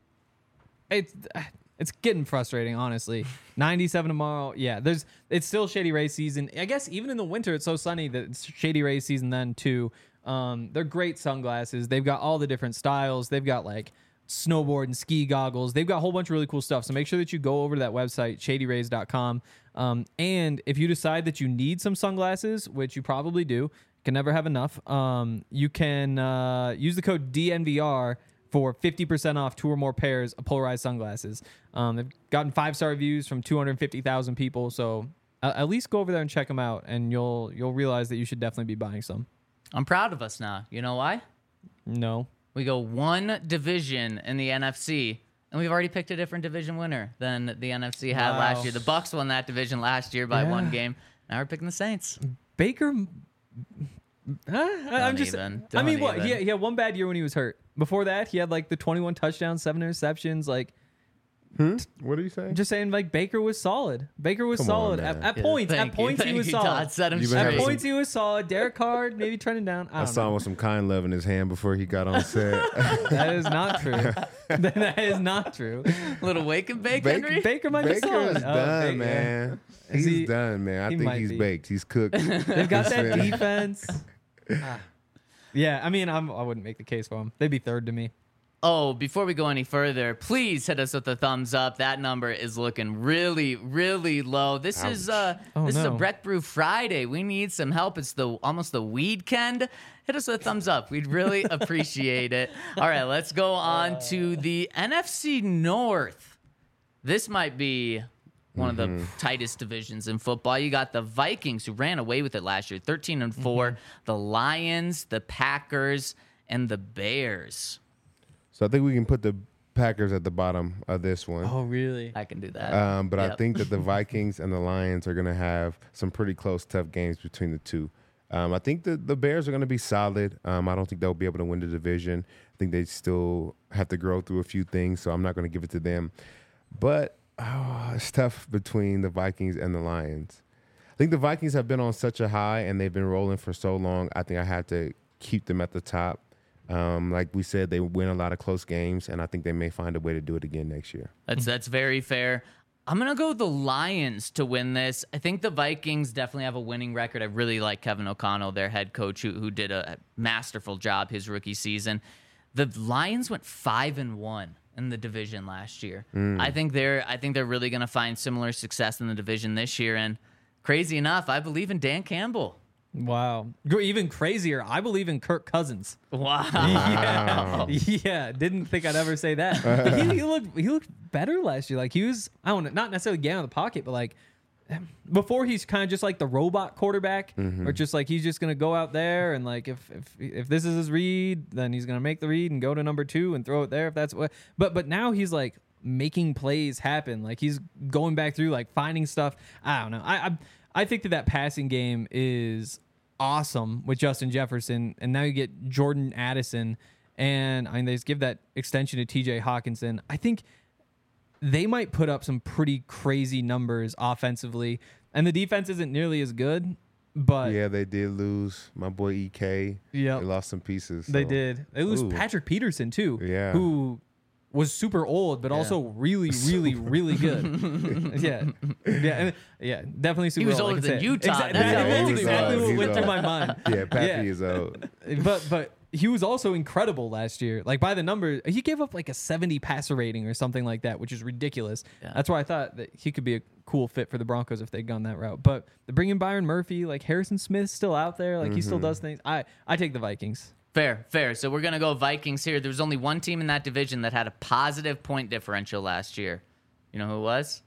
It's it's getting frustrating, honestly. ninety-seven tomorrow. Yeah, there's it's still Shady Rays season. I guess even in the winter, it's so sunny that it's Shady Rays season then too. Um, they're great sunglasses. They've got all the different styles. They've got like snowboard and ski goggles. They've got a whole bunch of really cool stuff. So make sure that you go over to that website, shady rays dot com. Um, and if you decide that you need some sunglasses, which you probably do, can never have enough, um, you can uh, use the code D N V R for fifty percent off two or more pairs of polarized sunglasses. Um, they've gotten five-star reviews from two hundred fifty thousand people. So uh, at least go over there and check them out, and you'll you'll realize that you should definitely be buying some. I'm proud of us now. You know why? No. We go one division in the N F C, and we've already picked a different division winner than the N F C had Wow. last year. The Bucks won that division last year by Yeah. one game. Now we're picking the Saints. Baker. Huh? I- I'm just. even. I mean, Don't what? He even. had, he had one bad year when he was hurt. Before that, he had like the twenty-one touchdowns, seven interceptions. Like, What are you saying? just saying, like Baker was solid. Baker was Come on, solid at, man. at Yeah, points. thank At you, points, he thank was you, solid. Todd. Set him You've been At having straight. some- points, he was solid. Derek Carr maybe trending down. I I don't saw him know. with some kind love in his hand before he got on set. That is not true. That is not true. Little wake and bake, Baker- Henry. Baker might be Baker solid. is Oh, done, Baker. man. Is He's he- done, man. I he think might he's be. baked. He's cooked. They've got that He's- defense. Ah. Yeah, I mean, I'm, I wouldn't make the case for him. They'd be third to me. Oh, before we go any further, please hit us with a thumbs up. That number is looking really, really low. This is uh, Oh, this is a no. Breck Brew Friday. We need some help. It's the almost the weekend. Hit us with a thumbs up. We'd really appreciate it. All right, let's go on to the N F C North. This might be one of the tightest divisions in football. You got the Vikings, who ran away with it last year, thirteen and four. The Lions, the Packers, and the Bears. So I think we can put the Packers at the bottom of this one. Oh, really? I can do that. Um, but I Yep. think that the Vikings and the Lions are going to have some pretty close, tough games between the two. Um, I think the, the Bears are going to be solid. Um, I don't think they'll be able to win the division. I think they still have to grow through a few things, so I'm not going to give it to them. But oh, it's tough between the Vikings and the Lions. I think the Vikings have been on such a high, and they've been rolling for so long. I think I had to keep them at the top. Um, like we said, they win a lot of close games, and I think they may find a way to do it again next year. That's that's very fair. I'm gonna go with the Lions to win this. I think the Vikings definitely have a winning record. I really like Kevin O'Connell, their head coach, who who did a masterful job his rookie season. The Lions went five and one in the division last year. I think they're I think they're really gonna find similar success in the division this year. And crazy enough, I believe in Dan Campbell. Wow. Gr- Even crazier, I believe in Kirk Cousins. Wow. Yeah, yeah. Didn't think I'd ever say that. But he, he looked he looked better last year. Like he was, I don't know, not necessarily getting out of the pocket, but like before he's kind of just like the robot quarterback, or just like he's just gonna go out there and like if if if this is his read, then he's gonna make the read and go to number two and throw it there if that's what. But but now he's like making plays happen. Like he's going back through like finding stuff. I don't know. I I, I think that that passing game is awesome with Justin Jefferson, and now you get Jordan Addison, and I mean they just give that extension to T J Hawkinson. I think they might put up some pretty crazy numbers offensively, and the defense isn't nearly as good, but Yeah, they did lose my boy E K. Yep. They lost some pieces. they so- did. They lose Ooh. Patrick Peterson too, Yeah. who was super old, but also really, really, really good. yeah, yeah, and, yeah. Definitely super. was old, older like I than said. you, Todd. Exactly, That's how that's old he exactly was. what He's went through old. my mind. Yeah, Pappy Yeah. is old. but but he was also incredible last year. Like by the number, he gave up like a seventy passer rating or something like that, which is ridiculous. Yeah. That's why I thought that he could be a cool fit for the Broncos if they'd gone that route. But they bring in Byron Murphy, like Harrison Smith's still out there, like he still does things. I I take the Vikings. Fair, fair. So we're going to go Vikings here. There was only one team in that division that had a positive point differential last year. You know who it was?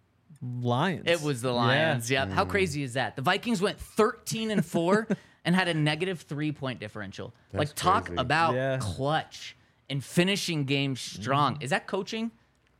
Lions. It was the Lions. Yep. How crazy is that? The Vikings went thirteen and four and had a negative three point differential. That's like talk crazy. about Yeah. clutch and finishing games strong. Is that coaching?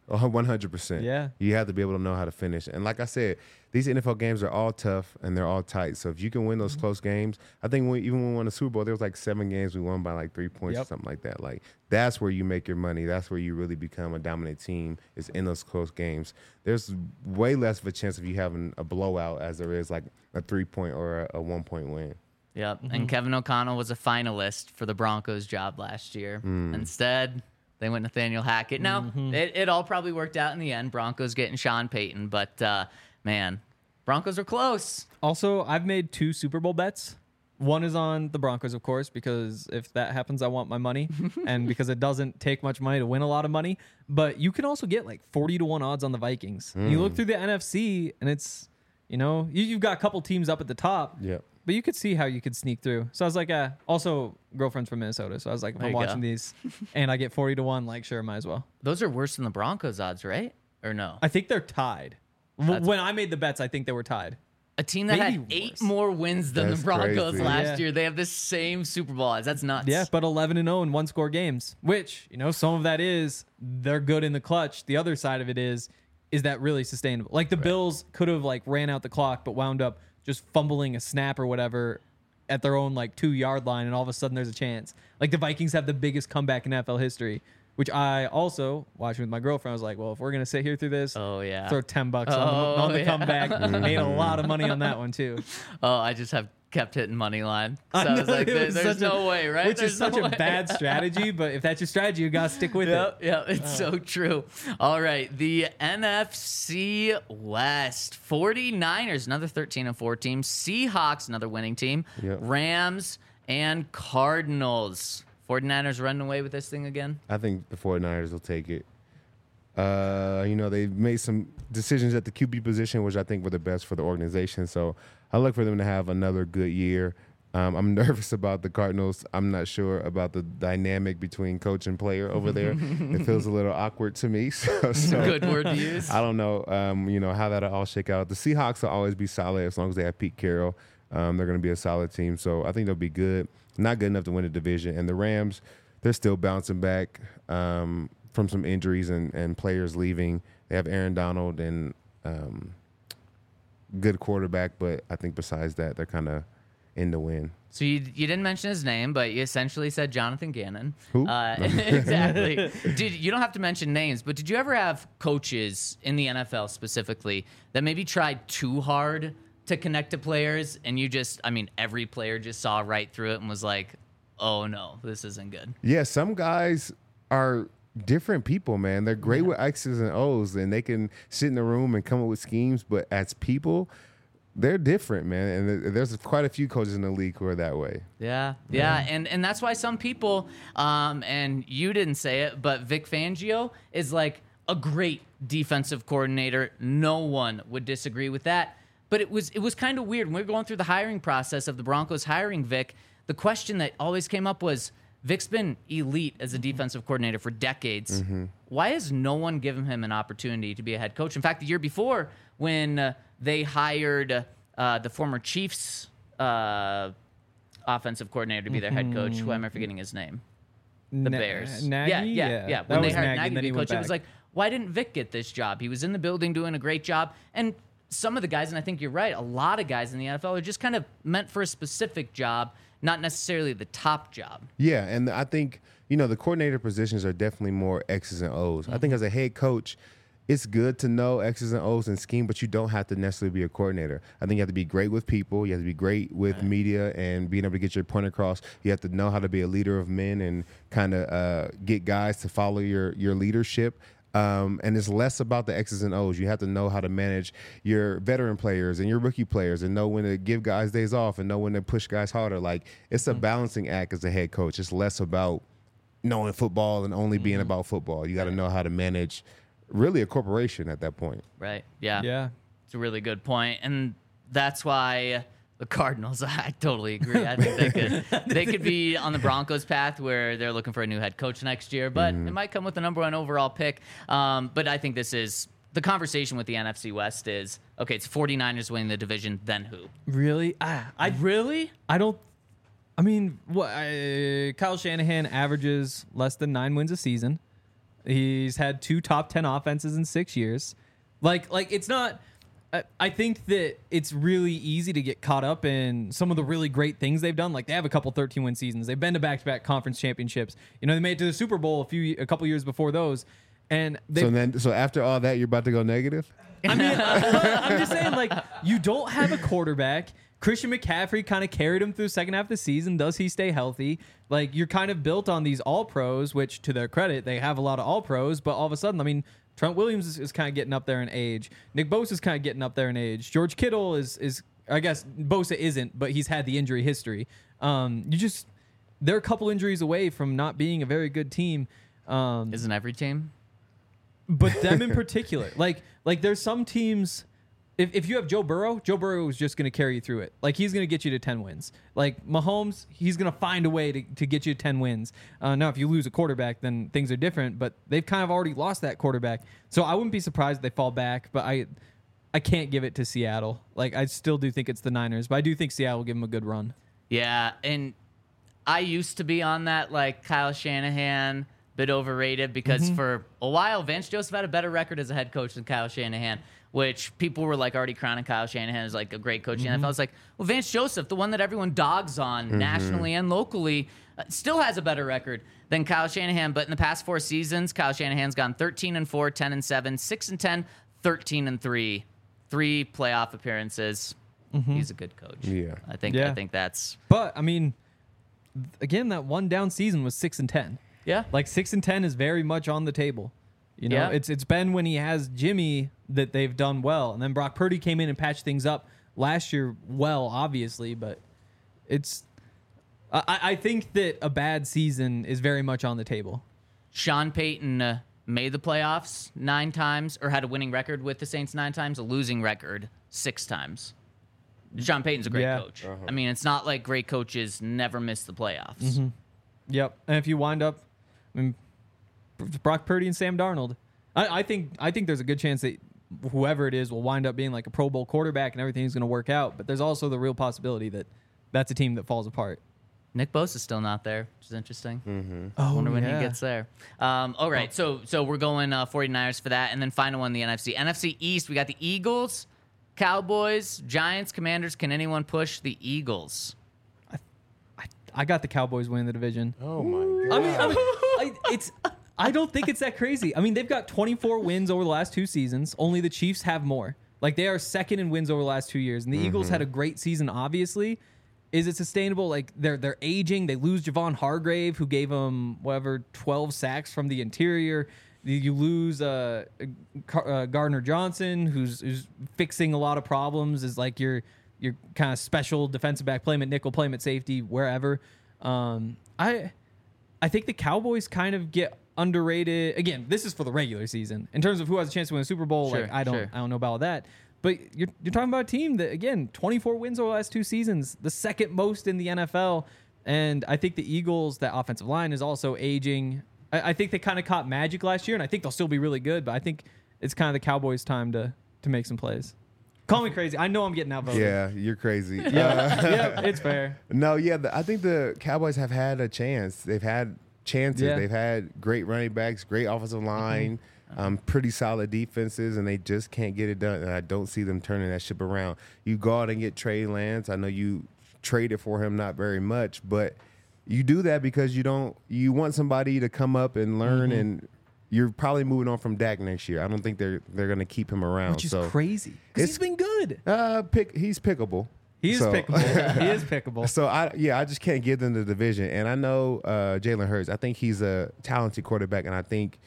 Oh, one hundred percent. Yeah. You have to be able to know how to finish. And like I said, these N F L games are all tough and they're all tight. So if you can win those close games, I think when, even when we won the Super Bowl, there was like seven games we won by like three points Yep. or something like that. Like that's where you make your money. That's where you really become a dominant team is in those close games. There's way less of a chance of you having a blowout as there is like a three-point or a, a one-point win. Yep. And Kevin O'Connell was a finalist for the Broncos job last year. Instead, they went Nathaniel Hackett. Now, it, it all probably worked out in the end. Broncos getting Sean Payton. But, uh, man, Broncos are close. Also, I've made two Super Bowl bets. One is on the Broncos, of course, because if that happens, I want my money. And because it doesn't take much money to win a lot of money. But you can also get like forty to one odds on the Vikings. You look through the N F C, and it's, you know, you, you've got a couple teams up at the top. Yep. But you could see how you could sneak through. So I was like, uh, also, girlfriend's from Minnesota. So I was like, if There I'm you watching go. these and I get forty to one, like, sure, might as well. Those are worse than the Broncos odds, right? Or no? I think they're tied. W- That's- When I made the bets, I think they were tied. A team that Maybe had eight worse. more wins than That's the Broncos crazy. last Yeah. year. They have the same Super Bowl odds. That's nuts. Yeah, but eleven and oh in one score games, which, you know, some of that is they're good in the clutch. The other side of it is, is that really sustainable? Like the Bills could have like ran out the clock, but wound up just fumbling a snap or whatever at their own like two yard line, and all of a sudden there's a chance. Like the Vikings have the biggest comeback in N F L history, which I also watching with my girlfriend. I was like, well, if we're gonna sit here through this, Oh, yeah. throw ten bucks on Oh, the, on the yeah. comeback. Made a lot of money on that one too. Oh, I just have kept hitting money line. So I, I was know, like, it there- was there's such a- no way, right? Which There's is such no a way. bad strategy, but if that's your strategy, you gotta stick with Yep, it. yep, it's so true. All right, the N F C West. forty-niners, another thirteen and four team. Seahawks, another winning team. Yep. Rams and Cardinals. forty-niners running away with this thing again? I think the 49ers will take it. Uh, you know, they've made some decisions at the Q B position, which I think were the best for the organization. So I look for them to have another good year. Um, I'm nervous about the Cardinals. I'm not sure about the dynamic between coach and player over there. It feels a little awkward to me. So, so Good word to use. I don't know, um, you know, how that'll all shake out. The Seahawks will always be solid as long as they have Pete Carroll. Um, they're going to be a solid team. So I think they'll be good. Not good enough to win the division. And the Rams, they're still bouncing back um, from some injuries and, and players leaving. They have Aaron Donald and um, good quarterback, but I think besides that, they're kind of in the win. So you you didn't mention his name, but you essentially said Jonathan Gannon. Who? Uh, exactly. Did you don't have to mention names, but did you ever have coaches in the N F L specifically that maybe tried too hard to connect to players, and you just, I mean, every player just saw right through it and was like, "Oh no, this isn't good." Yeah, some guys are different people, man. They're great with X's and O's, and they can sit in the room and come up with schemes, but as people, they're different, man. And there- there's quite a few coaches in the league who are that way. Yeah, yeah, and and that's why some people, um, and you didn't say it, but Vic Fangio is like a great defensive coordinator. No one would disagree with that. But it was it was kind of weird when we were going through the hiring process of the Broncos hiring Vic. The question that always came up was, Vic's been elite as a defensive coordinator for decades. Why has no one given him an opportunity to be a head coach? In fact, the year before, when uh, they hired uh, the former Chiefs uh, offensive coordinator to be their head coach, who am I forgetting his name? The Na- Bears. Nagy? Yeah, yeah, yeah. That When they was hired Nagy, Nagy and to then be he coach, went it was back. like, why didn't Vic get this job? He was in the building doing a great job. And some of the guys, and I think you're right, a lot of guys in the N F L are just kind of meant for a specific job, not necessarily the top job. Yeah, and I think, you know, the coordinator positions are definitely more X's and O's. I think as a head coach, it's good to know X's and O's and scheme, but you don't have to necessarily be a coordinator. I think you have to be great with people. You have to be great with media and being able to get your point across. You have to know how to be a leader of men and kind of uh, get guys to follow your your leadership. Um, and it's less about the X's and O's. You have to know how to manage your veteran players and your rookie players and know when to give guys days off and know when to push guys harder. Like, it's a balancing act as a head coach. It's less about knowing football and only being about football. You got to know how to manage really a corporation at that point. Right. Yeah. Yeah. It's a really good point. And that's why the Cardinals, I totally agree. I think they could they could be on the Broncos path where they're looking for a new head coach next year, but it might come with the number one overall pick. Um, but I think this is the conversation with the N F C West is, okay, it's forty-niners winning the division, then who? Really? Ah, I Really? I don't. I mean, what? I, Kyle Shanahan averages less than nine wins a season. He's had two top ten offenses in six years. Like, like it's not. I, I think that it's really easy to get caught up in some of the really great things they've done. Like they have a couple thirteen win seasons. They've been to back to back conference championships. You know, they made it to the Super Bowl a few a couple years before those. And they, So then, so after all that, you're about to go negative? I mean, I'm just saying, like, you don't have a quarterback. Christian McCaffrey kind of carried him through the second half of the season. Does he stay healthy? Like, you're kind of built on these all-pros, which, to their credit, they have a lot of all-pros. But all of a sudden, I mean, Trent Williams is, is kind of getting up there in age. Nick Bosa is kind of getting up there in age. George Kittle is, is I guess, Bosa isn't, but he's had the injury history. Um, you just, they're a couple injuries away from not being a very good team. Um, Isn't every team? But them in particular, like like there's some teams. If if you have Joe Burrow, Joe Burrow is just going to carry you through it. Like he's going to get you to ten wins. Like Mahomes, he's going to find a way to, to get you to ten wins. Uh, now, if you lose a quarterback, then things are different. But they've kind of already lost that quarterback, so I wouldn't be surprised if they fall back. But I I can't give it to Seattle. Like I still do think it's the Niners, but I do think Seattle will give them a good run. Yeah, and I used to be on that like Kyle Shanahan. Bit overrated because Mm-hmm. for a while Vance Joseph had a better record as a head coach than Kyle Shanahan, which people were like already crowning Kyle Shanahan as like a great coach in the N F L. I was like, well, Vance Joseph, the one that everyone dogs on Mm-hmm. nationally and locally, uh, still has a better record than Kyle Shanahan. But in the past four seasons, Kyle Shanahan's gone thirteen and four, ten and seven, six and ten, thirteen and three, three playoff appearances. He's a good coach. Yeah. I think. Yeah. I think that's But I mean, th- again, that one down season was six and ten. yeah. Like six and ten is very much on the table. You know, Yeah. it's it's been when he has Jimmy that they've done well, and then Brock Purdy came in and patched things up last year. Well, obviously, but it's. I, I think that a bad season is very much on the table. Sean Payton uh, made the playoffs nine times, or had a winning record with the Saints nine times, a losing record six times. Sean Payton's a great Yeah. coach. I mean, it's not like great coaches never miss the playoffs. Mm-hmm. Yep, and if you wind up, I mean, Brock Purdy and Sam Darnold, I, I think I think there's a good chance that whoever it is will wind up being like a Pro Bowl quarterback and everything's going to work out. But there's also the real possibility that that's a team that falls apart. Nick Bosa's still not there, which is interesting. Mm-hmm. Oh, Wonder when yeah. he gets there. Um, all right, so so we're going uh, 49ers for that, and then final one, the N F C. N F C East, we got the Eagles, Cowboys, Giants, Commanders. Can anyone push the Eagles? I, I got the Cowboys winning the division. Oh my god! I mean, I mean I, it's. I don't think it's that crazy. I mean, they've got twenty-four wins over the last two seasons. Only the Chiefs have more. Like they are second in wins over the last two years, and the Eagles had a great season. Obviously, is it sustainable? Like they're they're aging. They lose Javon Hargrave, who gave them whatever twelve sacks from the interior. You lose uh, uh, Gardner Johnson, who's who's fixing a lot of problems. Is like your your kind of special defensive back, play him at nickel, play him at safety, wherever. Um, I I think the Cowboys kind of get underrated. Again, this is for the regular season. In terms of who has a chance to win a Super Bowl, Sure, like I don't sure. I don't know about that. But you're you're talking about a team that, again, twenty-four wins over the last two seasons, the second most in the N F L. And I think the Eagles, that offensive line is also aging. I, I think they kind of caught magic last year, and I think they'll still be really good. But I think it's kind of the Cowboys' time to to make some plays. Call me crazy. I know I'm getting outvoted. Yeah, you're crazy. Yeah, Uh, yeah, it's fair. No, yeah, the, I think the Cowboys have had a chance. They've had chances. Yeah. They've had great running backs, great offensive line, um, pretty solid defenses, and they just can't get it done. And I don't see them turning that ship around. You go out and get Trey Lance. I know you traded for him not very much, but you do that because you don't. You want somebody to come up and learn, and you're probably moving on from Dak next year. I don't think they're they're going to keep him around. Which is so, crazy. Because he's It's- been good. Uh, pick. He's pickable. He is So- pickable. He is pickable. So I yeah, I just can't give them the division. And I know uh, Jalen Hurts. I think he's a talented quarterback, and I think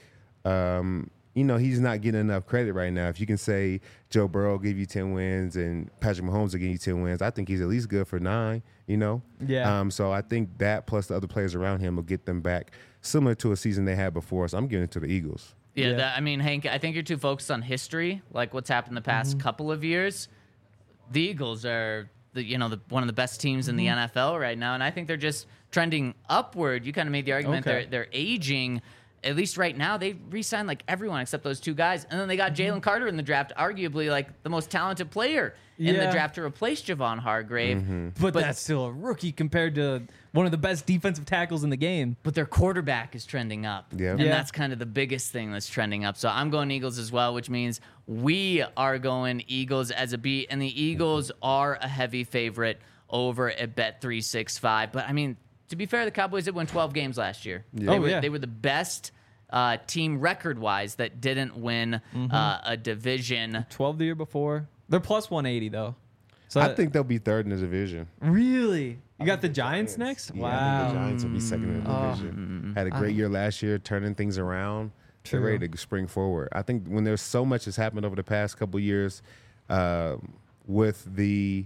um, you know he's not getting enough credit right now. If you can say Joe Burrow will give you ten wins and Patrick Mahomes will give you ten wins, I think he's at least good for nine. You know. Yeah. Um. So I think that plus the other players around him will get them back similar to a season they had before. So I'm giving it to the Eagles. Yeah, Yeah. That, I mean, Hank, I think you're too focused on history, like what's happened the past Mm-hmm. couple of years. The Eagles are, the, you know, the, one of the best teams in the Mm-hmm. N F L right now, and I think they're just trending upward. You kind of made the argument Okay. they're they're aging, at least right now, they re-signed like everyone except those two guys. And then they got Jalen Carter in the draft, arguably like the most talented player in Yeah. the draft to replace Javon Hargrave. But, But- that's still a rookie compared to one of the best defensive tackles in the game. But their quarterback is trending up. Yeah. And Yeah. that's kind of the biggest thing that's trending up. So I'm going Eagles as well, which means we are going Eagles as a beat. And the Eagles are a heavy favorite over at Bet three sixty-five. But I mean, to be fair, the Cowboys did win twelve games last year. They, Oh, were, yeah. they were the best uh, team record-wise that didn't win uh, a division. twelve the year before. They're plus one eighty, though. So I think they'll be third in the division. Really? You got the Giants next? Yeah, I think Wow. the Giants will be second in the division. Had a great year last year, turning things around. They're True. ready to spring forward. I think when there's so much has happened over the past couple years um, with the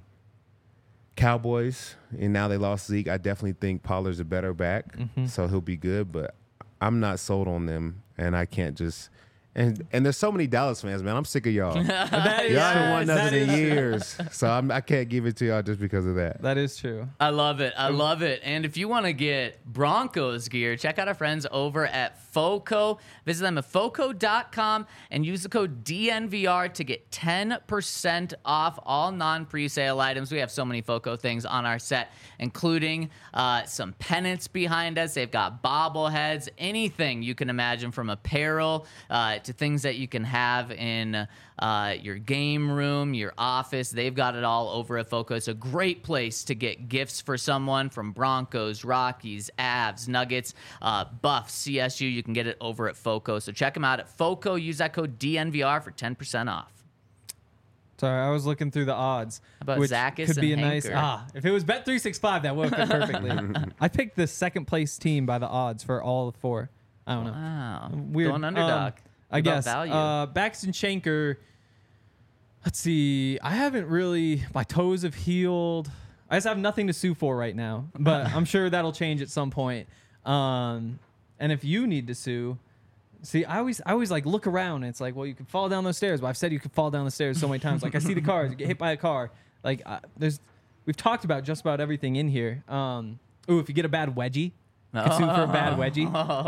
Cowboys, and now they lost Zeke, I definitely think Pollard's a better back, so he'll be good. But I'm not sold on them, and I can't just. And and there's so many Dallas fans, man. I'm sick of y'all. That is- Y'all haven't won that nothing in is- years, so I'm, I can't give it to y'all just because of that. That is true. I love it. I love it. And if you want to get Broncos gear, check out our friends over at FOCO. Visit them at foco dot com and use the code D N V R to get ten percent off all non-presale items. We have so many FOCO things on our set, including uh, some pennants behind us. They've got bobbleheads, anything you can imagine, from apparel uh, to things that you can have in uh, your game room, your office. They've got it all over at FOCO. It's a great place to get gifts for someone from Broncos, Rockies, Avs, Nuggets, uh, Buffs, C S U. You can get it over at FOCO. So check them out at FOCO. Use that code D N V R for ten percent off. Sorry, I was looking through the odds. about which Zacchaeus could be a and nice. Hanker? Ah, if it was Bet three sixty-five, that would have fit perfectly. I picked the second place team by the odds for all four. I don't know. Wow. Weird. Going underdog. Um, I About guess. value. Uh, Baxton Shanker. Let's see. I haven't really. My toes have healed. I just have nothing to sue for right now, but I'm sure that'll change at some point. Um, and if you need to sue, see, I always, I always like look around. And it's like, well, you could fall down those stairs. But I've said you could fall down the stairs so many times. Like I see the cars, you get hit by a car. Like uh, there's, we've talked about just about everything in here. Um, ooh, if you get a bad wedgie. You can sue for a bad wedgie.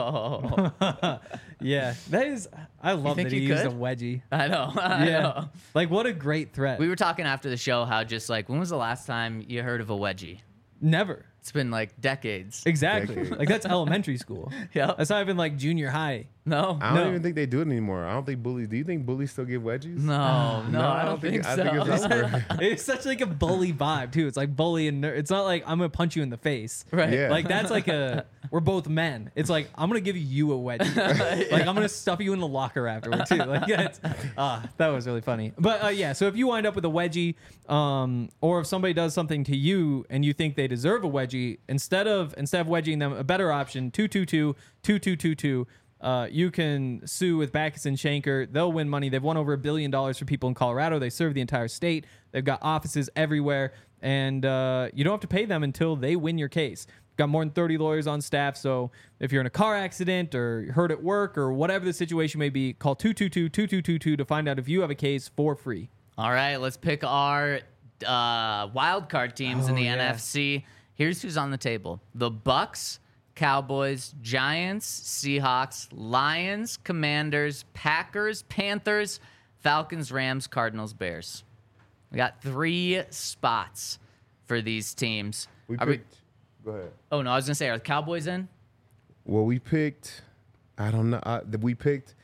Oh, Yeah, that is. I love think that he you used a could? wedgie. I know. I Yeah, know. like what a great threat. We were talking after the show how just like, when was the last time you heard of a wedgie? Never. It's been like decades. Exactly. Decades. Like that's elementary school. Yep. That's not even like junior high. No. I don't No. even think they do it anymore. I don't think bullies. Do you think bullies still give wedgies? No, no, I don't think, I so. think it's over. It's such like a bully vibe too. It's like bully and ner- it's not like I'm gonna punch you in the face. Right. Yeah. Like that's like a we're both men. It's like I'm gonna give you a wedgie. Like I'm gonna stuff you in the locker afterward too. Like that's ah, that was really funny. But uh, yeah, so if you wind up with a wedgie, um, or if somebody does something to you and you think they deserve a wedgie, instead of instead of wedging them, a better option two two two two two two two. Uh, you can sue with Backus and Shanker. They'll win money. They've won over a billion dollars for people in Colorado. They serve the entire state. They've got offices everywhere, and uh, you don't have to pay them until they win your case. Got more than thirty lawyers on staff, so if you're in a car accident or hurt at work or whatever the situation may be, call two two two two two two two to find out if you have a case for free. All right, let's pick our uh, wild card teams in Oh, the yeah. N F C. Here's who's on the table: the Bucks, Cowboys, Giants, Seahawks, Lions, Commanders, Packers, Panthers, Falcons, Rams, Cardinals, Bears. We got three spots for these teams. We Are we- picked. Go ahead. oh no, I was gonna say, are the Cowboys in? Well, we picked. I don't know. Uh, we picked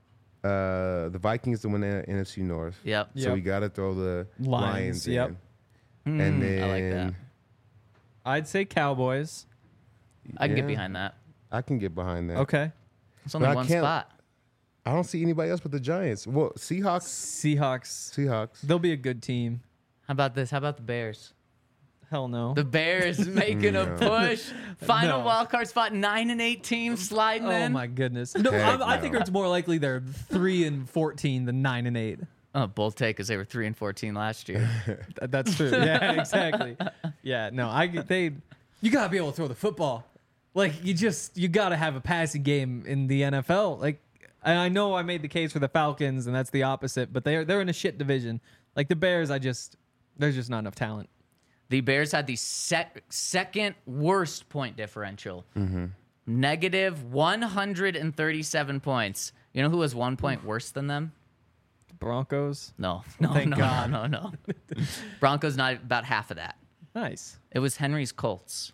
uh, the Vikings to win the N F C North. Yep. So Yep. we got to throw the Lions, Lions, yep. in. and then Hmm, I like that. I'd say Cowboys. I can get Yeah. behind that. I can get behind that. Okay. It's only But I one can't- spot. I don't see anybody else but the Giants. Well, Seahawks. Seahawks. Seahawks. They'll be a good team. How about this? How about the Bears? Hell no. The Bears making a No. push. Final No. wild card spot. Nine and eight teams sliding Oh in. my goodness! No, Heck I, I think no. it's more likely they're three and fourteen than nine and eight. Oh, both take because they were three and fourteen last year. Th- That's true. Yeah, exactly. Yeah, no, I they. You gotta be able to throw the football. Like you just you gotta have a passing game in the N F L. Like, and I know I made the case for the Falcons, and that's the opposite. But they're they're in a shit division. Like the Bears, I just there's just not enough talent. The Bears had the sec- second worst point differential negative one hundred thirty-seven points. You know who was one point worse than them? Broncos. No, no, Thank no, God. no, no, no. Broncos not about half of that. Nice. It was Henry's Colts.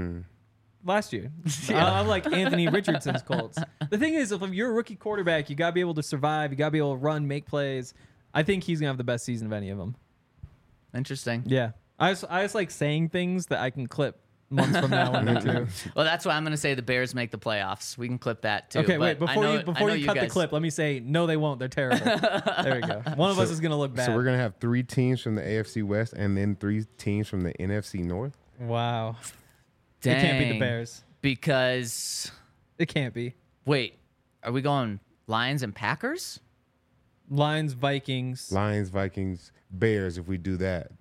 Last year. I- I'm like Anthony Richardson's Colts. The thing is, if you're a rookie quarterback, you got to be able to survive. You got to be able to run, make plays. I think he's going to have the best season of any of them. Interesting. Yeah. I just, I just like saying things that I can clip months from now on too. Well, that's why I'm going to say the Bears make the playoffs. We can clip that too. Okay, wait. But I Before know- you I before know you cut the guys- clip, let me say no. They won't. They're terrible. There we go. One of us is gonna look bad. So we're gonna have three teams from the A F C West and then three teams from the N F C North. Wow. Dang. It can't be the Bears. Because It can't be. wait, are we going Lions and Packers? Lions, Vikings. Lions, Vikings, Bears. If we do that,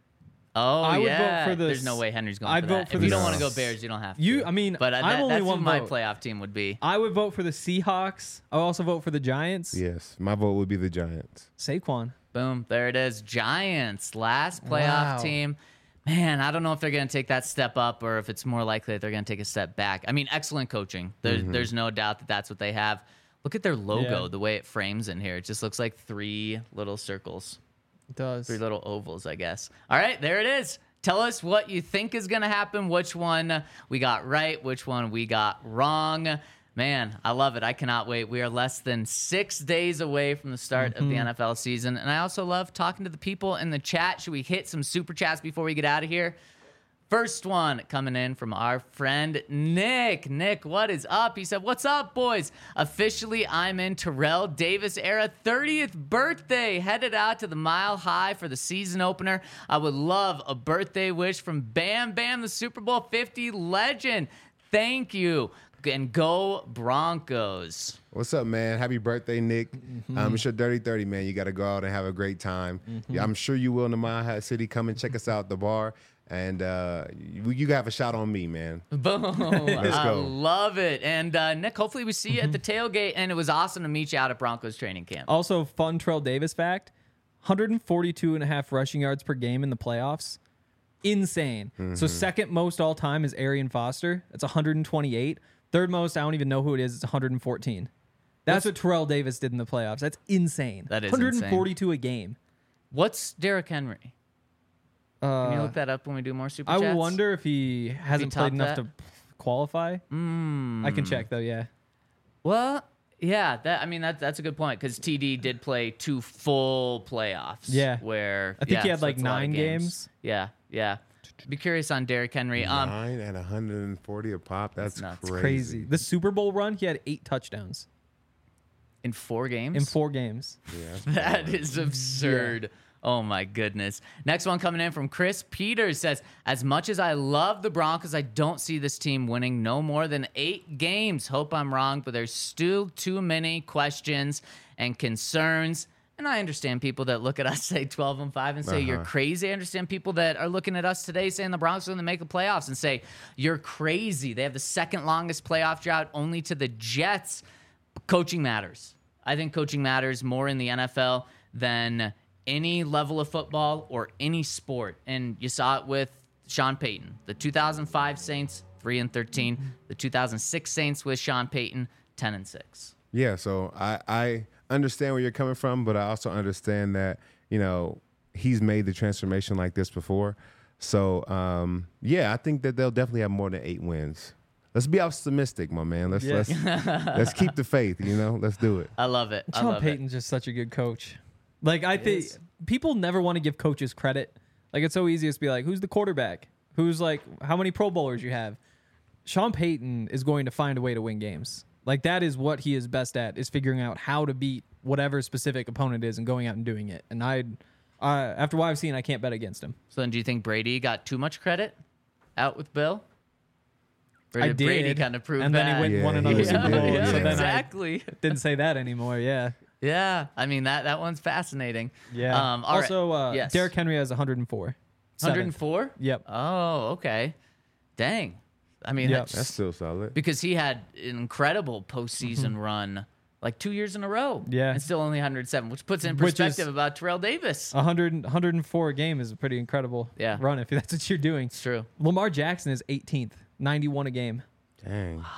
Oh I would vote yeah. for the There's no s- way Henry's going I'd for vote that. for if the you don't s- want to go Bears, you don't have to. You- I mean, but I, I'm that, only that's one who my vote. playoff team would be. I would vote for the Seahawks. I would also vote for the Giants. yes, my vote would be the Giants. Saquon. Boom, there it is. Giants, last playoff Wow. team. Man, I don't know if they're going to take that step up or if it's more likely that they're going to take a step back. I mean, excellent coaching. There, There's no doubt that that's what they have. Look at their logo, Yeah. the way it frames in here. It just looks like three little circles, It does. three little ovals, I guess. All right, there it is. Tell us what you think is going to happen, which one we got right, which one we got wrong. Man, I love it. I cannot wait. We are less than six days away from the start of the N F L season. And I also love talking to the people in the chat. Should we hit some super chats before we get out of here? First one coming in from our friend Nick. Nick, what is up? He said, what's up, boys? Officially, I'm in Terrell Davis era thirtieth birthday. Headed out to the Mile High for the season opener. I would love a birthday wish from Bam Bam, the Super Bowl fifty legend. Thank you. And go Broncos. What's up, man? Happy birthday, Nick. Um, it's your Dirty thirty, man. You got to go out and have a great time. Yeah, I'm sure you will in the Mile High City. Come and check us out at the bar. And uh, you, you have a shot on me, man. Boom. Let's I go. love it. And uh, Nick, hopefully we see you at the tailgate. And it was awesome to meet you out at Broncos training camp. Also, fun Terrell Davis fact: one hundred forty-two and a half rushing yards per game in the playoffs. Insane. So second most all time is Arian Foster. That's one hundred twenty-eight. Third most, I don't even know who it is. It's one hundred fourteen. That's what Terrell Davis did in the playoffs. That's insane. That is one hundred forty-two a game. What's Derrick Henry? Can you Uh, look that up when we do more super I chats? wonder if he hasn't played topped enough that? to qualify. Mm. I can check though. Yeah. Well, yeah, that I mean that that's a good point because T D did play two full playoffs. Yeah. where I think yeah, he had, so like, it's a lot of nine games. Yeah, yeah. Be curious on Derrick Henry. Um, Nine at one hundred forty a pop. That's, nuts. crazy. Crazy. The Super Bowl run, he had eight touchdowns in four games. in four games. Yeah, that's That is absurd. Oh my goodness. Next one coming in from Chris Peters says, as much as I love the Broncos, I don't see this team winning no more than eight games. Hope I'm wrong, but there's still too many questions and concerns. And I understand people that look at us say twelve and five and say you're crazy. I understand people that are looking at us today saying the Broncos are going to make the playoffs and say you're crazy. They have the second longest playoff drought only to the Jets. Coaching matters. I think coaching matters more in the N F L than any level of football or any sport. And you saw it with Sean Payton. The two thousand five Saints, three and thirteen. The two thousand six Saints with Sean Payton, ten and six. Yeah, so I, I understand where you're coming from, but I also understand that, you know, he's made the transformation like this before. So, um, yeah, I think that they'll definitely have more than eight wins. Let's be optimistic, my man. Let's Yes. let's let's keep the faith, you know? Let's do it. I love it. I Sean love Payton's just such a good coach. Like I think is. people never want to give coaches credit. Like it's so easy to be like, who's the quarterback? Who's like, how many Pro Bowlers you have? Sean Payton is going to find a way to win games. Like that is what he is best at, is figuring out how to beat whatever specific opponent is and going out and doing it. And I, uh, after what I've seen, I can't bet against him. it. So then do you think Brady got too much credit out with Bill? Or I did did, Brady kind of prove and that? then he went, Yeah, won he another was- Super yeah, Bowl. yeah, so then exactly. I didn't say that anymore. Yeah, Yeah. I mean, that, that one's fascinating. yeah. Um, all right. also, uh, Yes. Derrick Henry has one hundred four. one hundred four? Yep. Oh, okay. Dang. I mean, Yep. that's, That's still solid. because he had an incredible postseason run, like two years in a row. Mm-hmm. Yeah. And still only one hundred seven, which puts it in Which is- perspective about Terrell Davis. one hundred, one hundred four a game is a pretty incredible Yeah. run if that's what you're doing. It's true. Lamar Jackson is eighteenth, ninety-one a game. Dang.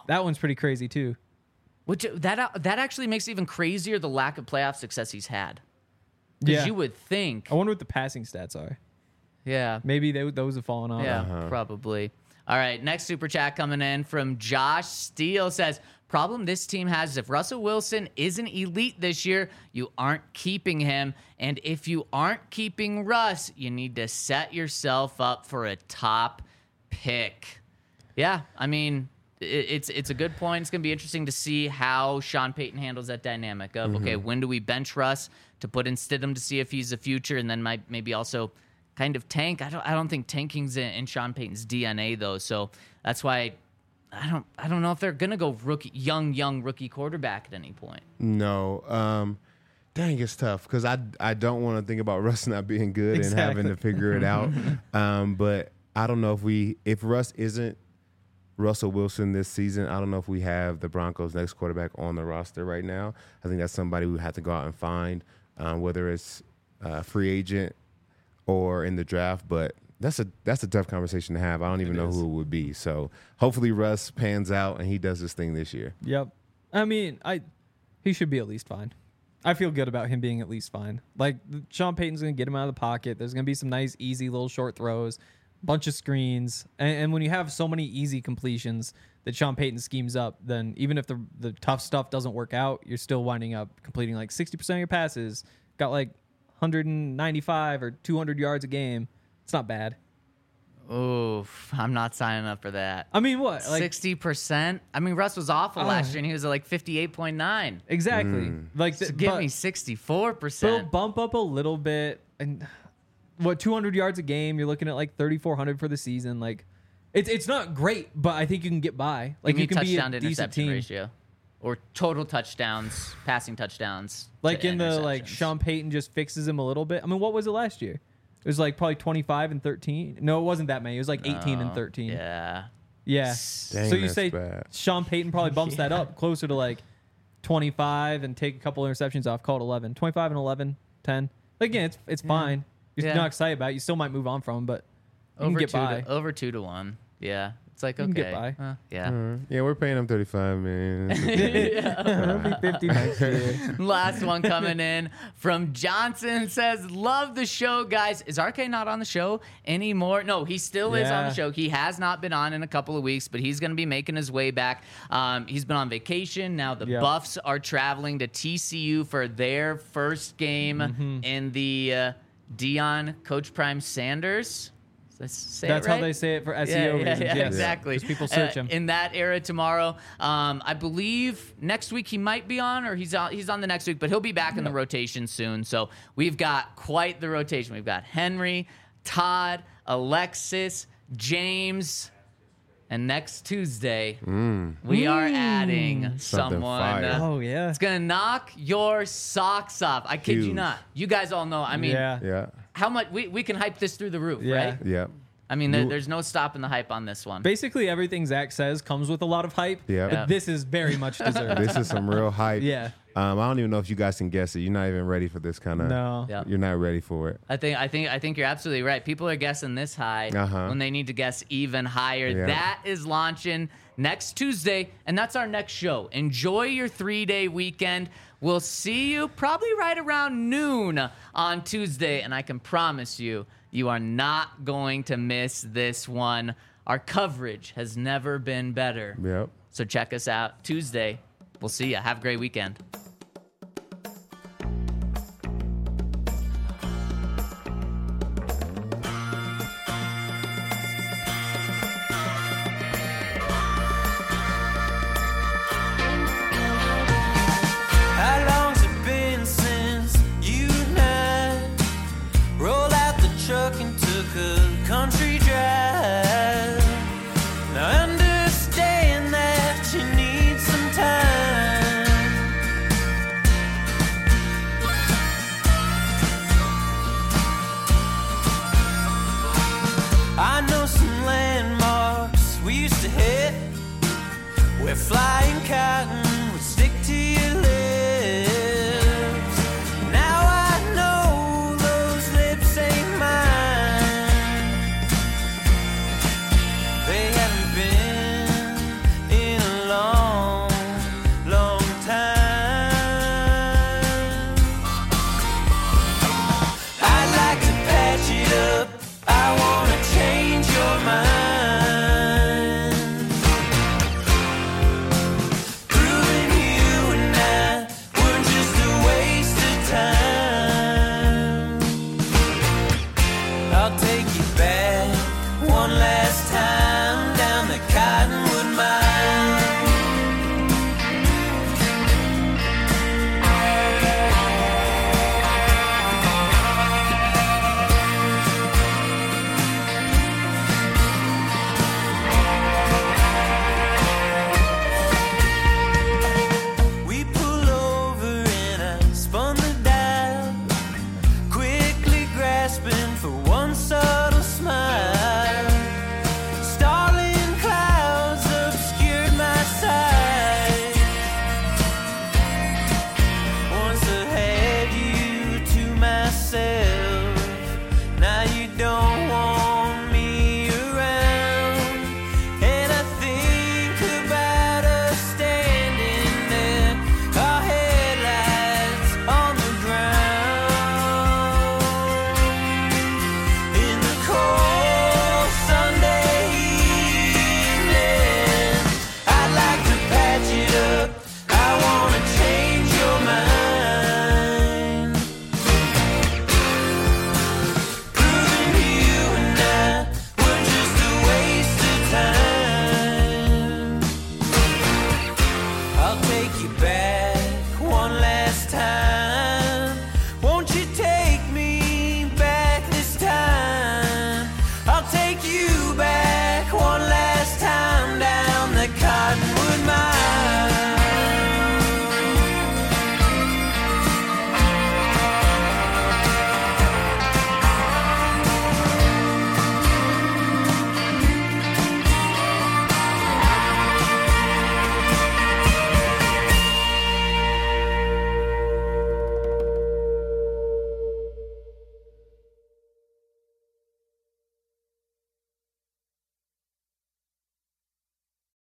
That one's pretty crazy too. Which that that actually makes it even crazier the lack of playoff success he's had. Because Yeah. you would think, I wonder what the passing stats are. yeah, Maybe they, those have fallen off. yeah, probably. All right, next super chat coming in from Josh Steele says, problem this team has is if Russell Wilson isn't elite this year, you aren't keeping him. And if you aren't keeping Russ, you need to set yourself up for a top pick. Yeah, I mean, it, it's it's a good point. It's going to be interesting to see how Sean Payton handles that dynamic of, Mm-hmm. okay, when do we bench Russ to put in Stidham to see if he's the future, and then might maybe also kind of tank. I don't I don't think tanking's in, in Sean Payton's D N A though, so that's why I don't I don't know if they're gonna go rookie young young rookie quarterback at any point. No. Um, dang, it's tough because I, I don't want to think about Russ not being good and having to figure it out. um, but I don't know if we if Russ isn't Russell Wilson this season, I don't know if we have the Broncos' next quarterback on the roster right now. I think that's somebody we have to go out and find, um, whether it's a free agent or in the draft. But that's a that's a tough conversation to have. I don't even know who it would be. So hopefully Russ pans out and he does his thing this year. Yep. I mean, I he should be at least fine. I feel good about him being at least fine. Like, Sean Payton's going to get him out of the pocket. There's going to be some nice, easy little short throws, bunch of screens. And, and when you have so many easy completions that Sean Payton schemes up, then even if the the tough stuff doesn't work out, you're still winding up completing like sixty percent of your passes. Got like one ninety-five or two hundred yards a game. It's not bad. Oof, I'm not signing up for that. I mean, what? Like, Sixty percent. I mean, Russ was awful Oh. last year, and he was at like fifty-eight point nine. exactly. Like, So the, give but- me sixty-four So percent. bump up a little bit, and what two hundred yards a game? You're looking at like thirty-four hundred for the season. Like, it's it's not great, but I think you can get by. Like, Give me you can be a touchdown to decent interception team. ratio, or total touchdowns, passing touchdowns. Like to in the like interceptions. Sean Payton just fixes him a little bit. I mean, what was it last year? It was like probably twenty-five and thirteen. No, it wasn't that many. It was like eighteen and Oh, thirteen. Yeah. Yeah. Dang, so you that's say bad. Sean Payton probably bumps that up closer to like twenty-five and take a couple interceptions off, call it eleven. twenty-five and eleven, ten. Again, it's it's fine. You're Yeah. not excited about it. You still might move on from him, but you Over can get two by. to, over two to one. Yeah. It's like, You okay. can get by. uh, yeah. Uh, yeah, we're paying him thirty-five, man. It'll be fifty next year. Last one coming in from Johnson says, love the show, guys. Is R K not on the show anymore? No, he still is on the Yeah. show. He has not been on in a couple of weeks, but he's going to be making his way back. Um, he's been on vacation. Now the Yep. Buffs are traveling to T C U for their first game Mm-hmm. in the uh, Dion Coach Prime Sanders. Did I say it That's how right? they say it for S E O Yeah, yeah, reasons. yeah, yes. exactly. Because people search Uh, him. in that era tomorrow. Um, I believe next week he might be on, or he's on. He's on the next week, but he'll be back in the rotation soon. So we've got quite the rotation. We've got Henry, Todd, Alexis, James, and next Tuesday we are adding Something someone. fire. uh, Oh, yeah. It's gonna knock your socks off. I kid you Huge. not. You guys all know. I mean, Yeah. Yeah, how much we, we can hype this through the roof, Yeah. right? yeah, I mean, there, there's no stopping the hype on this one. Basically, everything Zach says comes with a lot of hype. Yeah. but Yeah. This is very much deserved. this is some real hype. Yeah. Um, I don't even know if you guys can guess it. You're not even ready for this kind of. No. Yeah. You're not ready for it. I think I think I think you're absolutely right. People are guessing this high Uh-huh. when they need to guess even higher. Yeah. That is launching next Tuesday, and that's our next show. Enjoy your three-day weekend. We'll see you probably right around noon on Tuesday, and I can promise you, you are not going to miss this one. Our coverage has never been better. Yep. So check us out Tuesday. We'll see you. Have a great weekend.